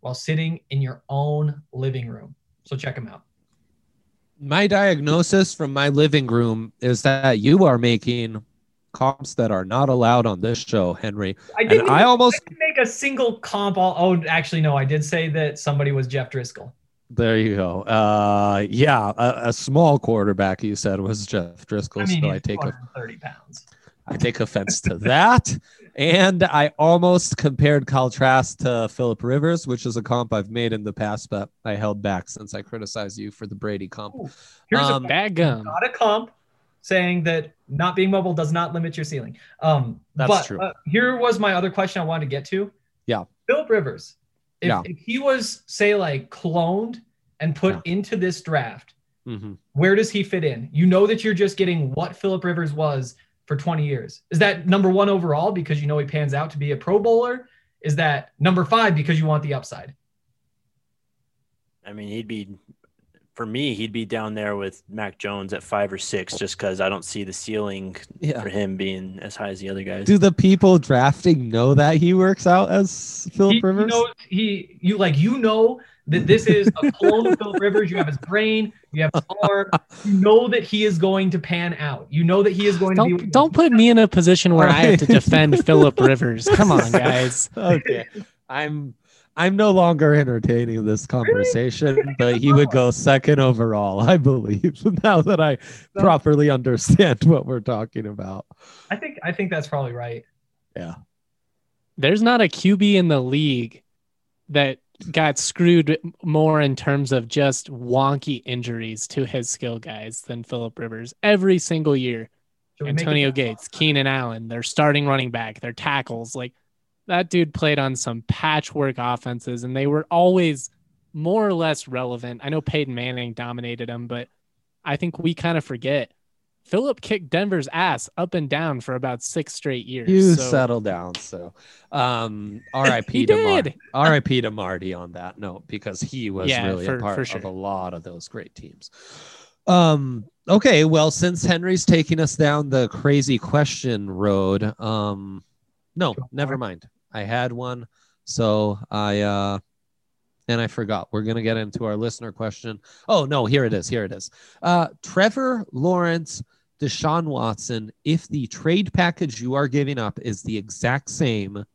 while sitting in your own living room. So check him out. My diagnosis from my living room is that you are making comps that are not allowed on this show, Henry. I didn't make a single comp. Actually, no, I did say that somebody was Jeff Driscoll. There you go. A small quarterback you said was Jeff Driscoll. I mean, so he's 230 pounds. I take offense to that. And I almost compared Kyle Trask to Phillip Rivers, which is a comp I've made in the past, but I held back since I criticized you for the Brady comp. Ooh, here's a bad gum. Not a comp saying that not being mobile does not limit your ceiling. That's true. Here was my other question I wanted to get to. Yeah. Phillip Rivers. If he was, say, like cloned and put into this draft, where does he fit in? You know that you're just getting what Phillip Rivers was for 20 years. Is that number 1 overall because you know he pans out to be a Pro Bowler? Is that number 5 because you want the upside? I mean, he'd be down there with Mac Jones at 5 or 6 just because I don't see the ceiling for him being as high as the other guys. Do the people drafting know that he works out as Phillip Rivers? You know that this is a clone of Phillip Rivers. You have his brain, you have his arm. You know that he is going to pan out. You know that he is going to be. Don't put me in a position where I have to defend Phillip Rivers. Come on, guys. Okay, I'm no longer entertaining this conversation, but he would go 2nd overall, I believe. Now that I properly understand what we're talking about, I think that's probably right. Yeah, there's not a QB in the league that got screwed more in terms of just wonky injuries to his skill guys than Phillip Rivers every single year. Antonio Gates, Keenan Allen, their starting running back, their tackles, like that dude played on some patchwork offenses and they were always more or less relevant. I know Peyton Manning dominated them, but I think we kind of forget Phillip kicked Denver's ass up and down for about 6 straight years. You settle down. So, R.I.P. to Marty on that note, because he was really a part of a lot of those great teams. Okay, well, since Henry's taking us down the crazy question road, no, never mind. I had one, so I forgot. We're gonna get into our listener question. Oh no, here it is. Trevor Lawrence, Deshaun Watson. If the trade package you are giving up is the exact same,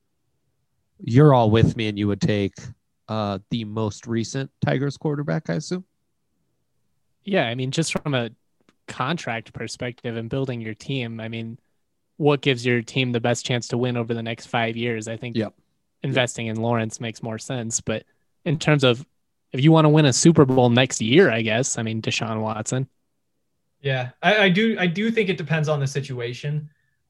you're all with me, and you would take the most recent Tigers quarterback, I assume. Yeah, I mean, just from a contract perspective and building your team, I mean, what gives your team the best chance to win over the next 5 years? I think investing in Lawrence makes more sense. But in terms of if you want to win a Super Bowl next year, I guess, I mean, Deshaun Watson. Yeah, I do think it depends on the situation.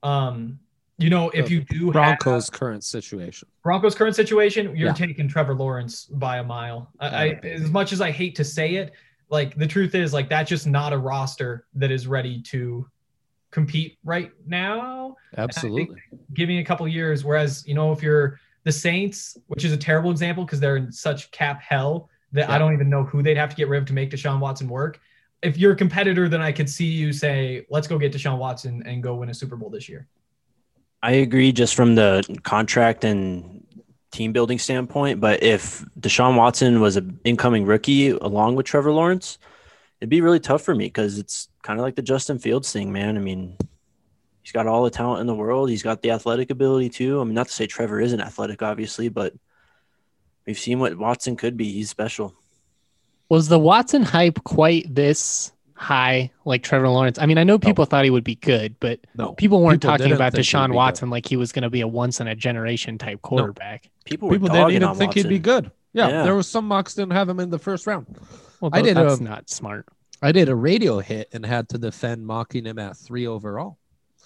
If you do Broncos' current situation, you're taking Trevor Lawrence by a mile. As much as I hate to say it, like the truth is, like that's just not a roster that is ready to compete right now. Absolutely. Giving a couple years, whereas if you're the Saints, which is a terrible example because they're in such cap hell that I don't even know who they'd have to get rid of to make Deshaun Watson work. If you're a competitor, then I could see you say, let's go get Deshaun Watson and go win a Super Bowl this year. I agree just from the contract and team building standpoint, but if Deshaun Watson was an incoming rookie along with Trevor Lawrence, it'd be really tough for me because it's kind of like the Justin Fields thing, man. I mean, he's got all the talent in the world. He's got the athletic ability too. I mean, not to say Trevor isn't athletic, obviously, but we've seen what Watson could be. He's special. Was the Watson hype quite this high like Trevor Lawrence? I mean, I know people thought he would be good, but people weren't talking about Deshaun Watson like he was going to be a once-in-a-generation type quarterback. People didn't even think he'd be good. Yeah, there was some mocks didn't have him in the first round. Well, that's not smart. I did a radio hit and had to defend mocking him at 3 overall.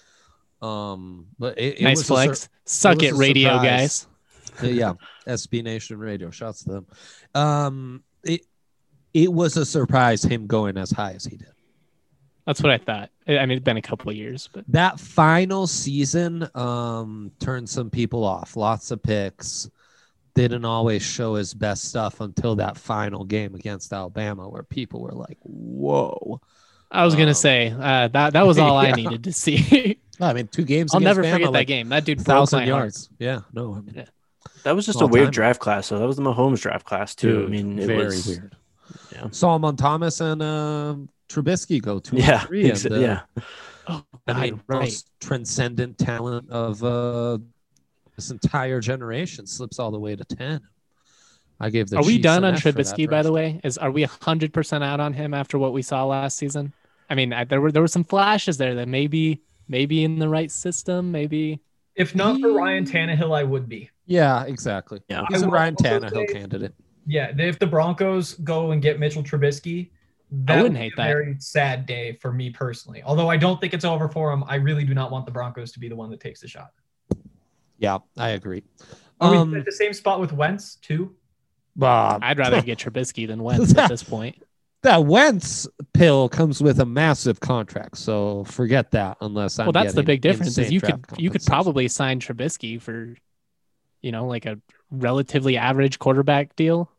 But it nice was flex. Suck it, radio guys. Yeah, SB Nation Radio. Shouts to them. It was a surprise him going as high as he did. That's what I thought. I mean, it's been a couple of years, but that final season turned some people off. Lots of picks. Didn't always show his best stuff until that final game against Alabama, where people were like, "Whoa!" I was gonna say that was all I needed to see. I mean, 2 games. I'll never Bama, forget like that game. That dude 1,000 yards. Yeah, no, I mean, That was just a Small weird time. draft class. So that was the Mahomes draft class too. I mean, it very was weird. Yeah. Solomon Thomas and Trubisky go 2 Yeah, and 3. And, yeah. Oh, I mean, right. most transcendent talent of this entire generation slips all the way to 10. I gave the Are we Chiefs done an on F for that Trubisky, by the draft. way? Are we 100% out on him after what we saw last season? I mean, there were some flashes there that maybe in the right system, maybe. If not for Ryan Tannehill, I would be. Yeah, exactly. Yeah. He's I a will Ryan also Tannehill say- candidate. Yeah, if the Broncos go and get Mitchell Trubisky, that wouldn't would be hate a that. very sad day for me personally. Although I don't think it's over for him, I really do not want the Broncos to be the one that takes the shot. Yeah, I agree. Are we at the same spot with Wentz too? I'd rather get Trubisky than Wentz at this point. That Wentz pill comes with a massive contract, so forget that. Unless I'm Well, that's the getting big difference. Is insane you draft could compensation. probably sign Trubisky for, like a relatively average quarterback deal.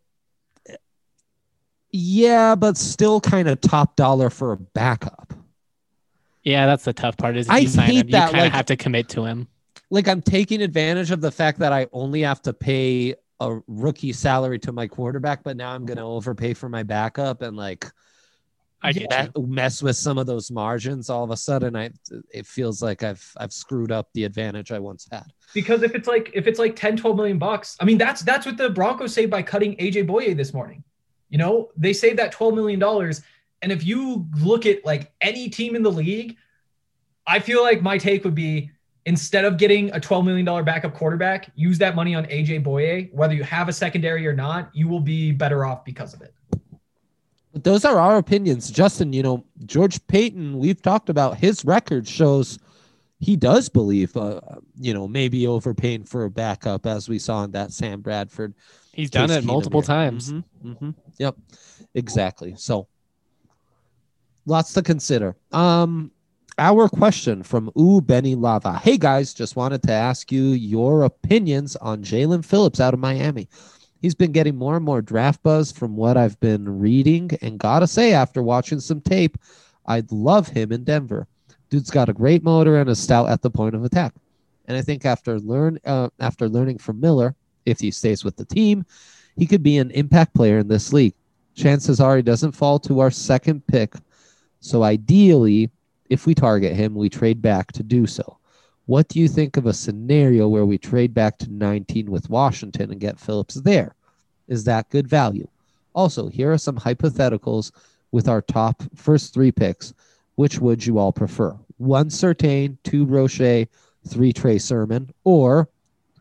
Yeah, but still kind of top dollar for a backup. Yeah, that's the tough part. Is if I you sign hate him, you that, kind of like- have to commit to him. Like I'm taking advantage of the fact that I only have to pay a rookie salary to my quarterback, but now I'm going to overpay for my backup and I get you. mess with some of those margins. All of a sudden, it feels like I've screwed up the advantage I once had. Because if it's like 10, 12 million bucks, I mean, that's what the Broncos saved by cutting AJ Boye this morning. They saved that $12 million. And if you look at like any team in the league, I feel like my take would be, instead of getting a $12 million backup quarterback, use that money on AJ Boye. Whether you have a secondary or not, you will be better off because of it. But those are our opinions. Justin, George Payton, we've talked about his record shows he does believe, maybe overpaying for a backup, as we saw in that Sam Bradford. He's done Case it Keenum multiple year. times. Yep, exactly. So lots to consider. Our question from Benny Lava. Hey guys, just wanted to ask you your opinions on Jalen Phillips out of Miami. He's been getting more and more draft buzz from what I've been reading, and gotta say, after watching some tape, I'd love him in Denver. Dude's got a great motor and is stout at the point of attack. And I think after learning from Miller, if he stays with the team, he could be an impact player in this league. Chances are he doesn't fall to our second pick. So ideally, if we target him, we trade back to do so. What do you think of a scenario where we trade back to 19 with Washington and get Phillips there? Is that good value? Also, here are some hypotheticals with our top first 3 picks. Which would you all prefer? 1 Surtain, 2 Roche, 3 Trey Sermon, or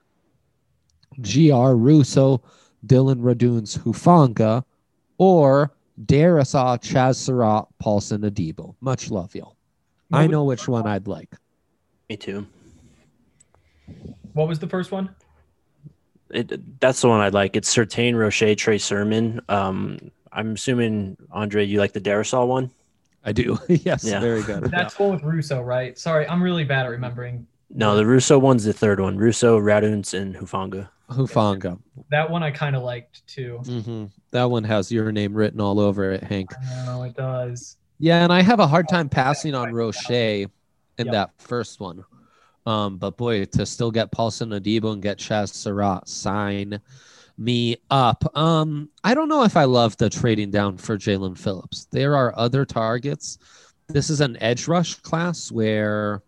GR Russo, Dylan Raduns Hufanga, or Darisaw, Chaz Surratt, Paulson Adebo. Much love, y'all. I know which one I'd like. Me too. What was the first one? That's the one I'd like. It's Surtain, Roche, Trey Sermon. I'm assuming, Andre, you like the Darisaw one? I do. Yes, Yeah. very good. That's the one with Russo, right? Sorry, I'm really bad at remembering. No, the Russo one's the third one. Russo, Raduns, and Hufanga. Hufanga. That one I kind of liked too. That one has your name written all over it, Hank. I know it does. Yeah, and I have a hard time passing on Roche in Yep. that first one. But boy, to still get Paulson Adebo and get Chaz Surratt, sign me up. I don't know if I love the trading down for Jalen Phillips. There are other targets. This is an edge rush class where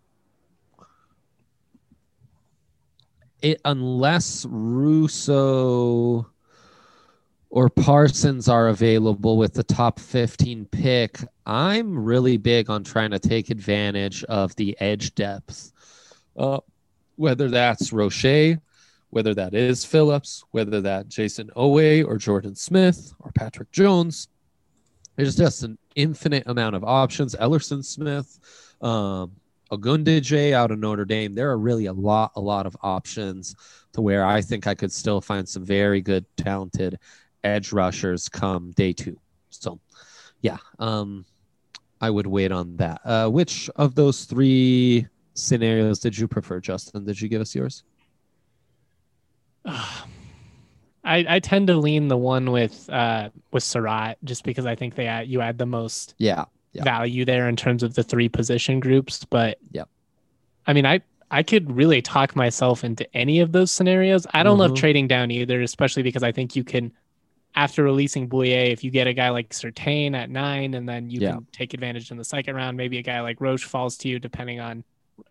unless Russo or Parsons are available with the top 15 pick, I'm really big on trying to take advantage of the edge depth. Whether that's Roche, whether that is Phillips, whether that Jason Owe or Jordan Smith or Patrick Jones. There's just an infinite amount of options. Ellerson Smith, Ogundeje out of Notre Dame. There are really a lot of options to where I think I could still find some very good, talented edge rushers come day 2. So, yeah, I would wait on that. Which of those 3 scenarios did you prefer, Justin? Did you give us yours? I tend to lean the one with Surratt, just because I think you add the most Yeah. value there in terms of the 3 position groups. But Yep. I mean, I could really talk myself into any of those scenarios. I don't love Mhm. trading down either, especially because I think you can, after releasing Bouye, if you get a guy like Surtain at 9, and then you Yeah. can take advantage in the second round, maybe a guy like Roche falls to you, depending on,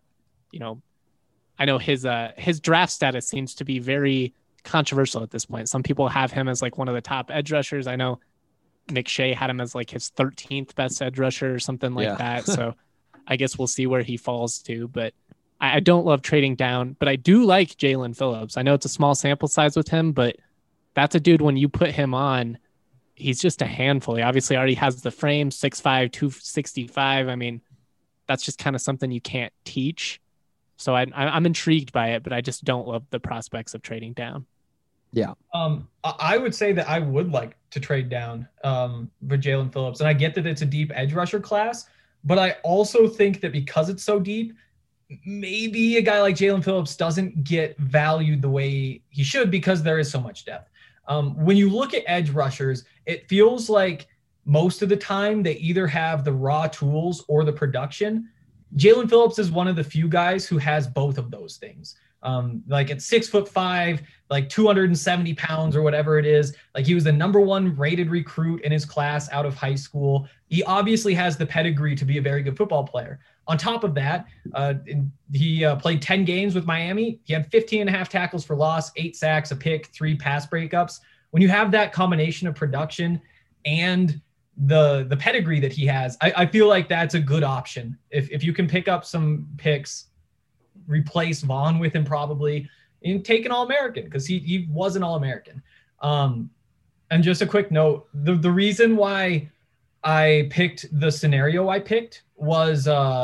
I know his draft status seems to be very controversial at this point. Some people have him as like one of the top edge rushers. I know McShay had him as like his 13th best edge rusher or something like that. So I guess we'll see where he falls to. But I don't love trading down, but I do like Jalen Phillips. I know it's a small sample size with him, but that's a dude when you put him on, he's just a handful. He obviously already has the frame, 6'5", 265. I mean, that's just kind of something you can't teach. So I'm intrigued by it, but I just don't love the prospects of trading down. Yeah. I would say that I would like to trade down for Jalen Phillips. And I get that it's a deep edge rusher class, but I also think that because it's so deep, maybe a guy like Jalen Phillips doesn't get valued the way he should because there is so much depth. When you look at edge rushers, it feels like most of the time they either have the raw tools or the production. Jalen Phillips is one of the few guys who has both of those things. Like at 6'5", like 270 pounds or whatever it is. Like he was the #1 rated recruit in his class out of high school. He obviously has the pedigree to be a very good football player. On top of that, he played 10 games with Miami. He had 15.5 tackles for loss, 8 sacks, a pick, 3 pass breakups. When you have that combination of production and the pedigree that he has, I feel like that's a good option. If you can pick up some picks, replace Vaughn with him probably, and take an All-American because he was an All-American. And just a quick note, the reason why I picked the scenario I picked was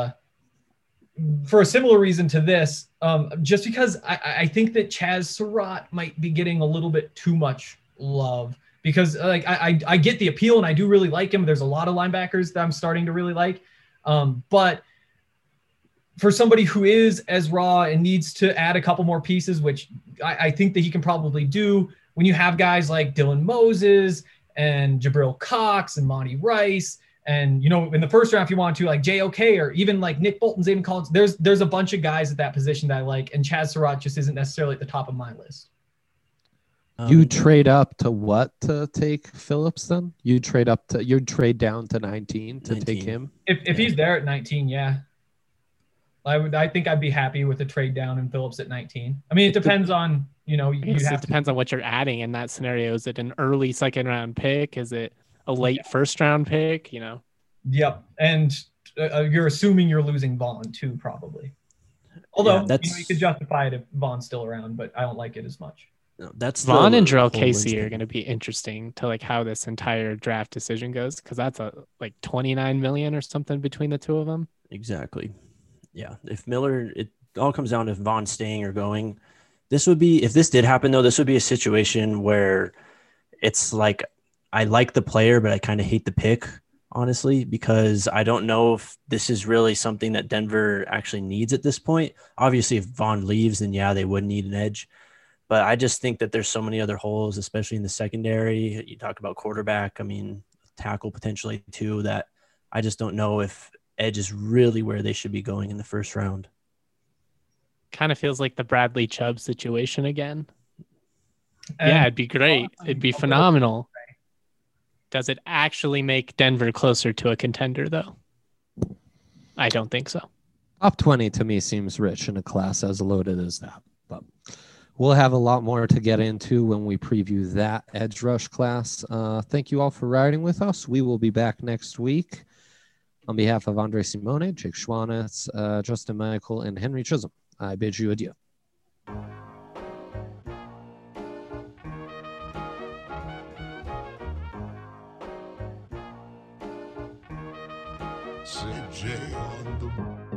for a similar reason to this, just because I think that Chaz Surratt might be getting a little bit too much love. Because like I get the appeal and I do really like him. There's a lot of linebackers that I'm starting to really like. But for somebody who is as raw and needs to add a couple more pieces, which I think that he can probably do, when you have guys like Dylan Moses and Jabril Cox and Monty Rice, and in the first round if you want to, like JOK or even like Nick Bolton, Zayden Collins, there's a bunch of guys at that position that I like, and Chaz Surratt just isn't necessarily at the top of my list. You trade up to what to take Phillips then? You'd trade down to 19 to 19. take him? If he's there at 19, yeah. I think I'd be happy with a trade down in Phillips at 19. I mean, it depends on, It depends on what you're adding in that scenario. Is it an early second round pick? Is it a late first round pick? Yep. And you're assuming you're losing Vaughn too, probably. Although, you could justify it if Vaughn's still around, but I don't like it as much. No, that's Vaughn and Jarrell Casey are going to be interesting to like how this entire draft decision goes, because that's like $29 million or something between the two of them. Exactly. Yeah. If Miller, it all comes down to if Vaughn's staying or going. This would be, if this did happen though, this would be a situation where it's like I like the player, but I kind of hate the pick, honestly, because I don't know if this is really something that Denver actually needs at this point. Obviously, if Vaughn leaves, then yeah, they would need an edge. But I just think that there's so many other holes, especially in the secondary. You talk about quarterback, I mean, tackle potentially too, that I just don't know if edge is really where they should be going in the first round. Kind of feels like the Bradley Chubb situation again. Yeah, it'd be great. It'd be phenomenal. Does it actually make Denver closer to a contender, though? I don't think so. Top 20 to me seems rich in a class as loaded as that. But we'll have a lot more to get into when we preview that edge rush class. Thank you all for riding with us. We will be back next week. On behalf of Andre Simone, Jake Schwanitz, Justin Michael, and Henry Chisholm, I bid you adieu. CJ on the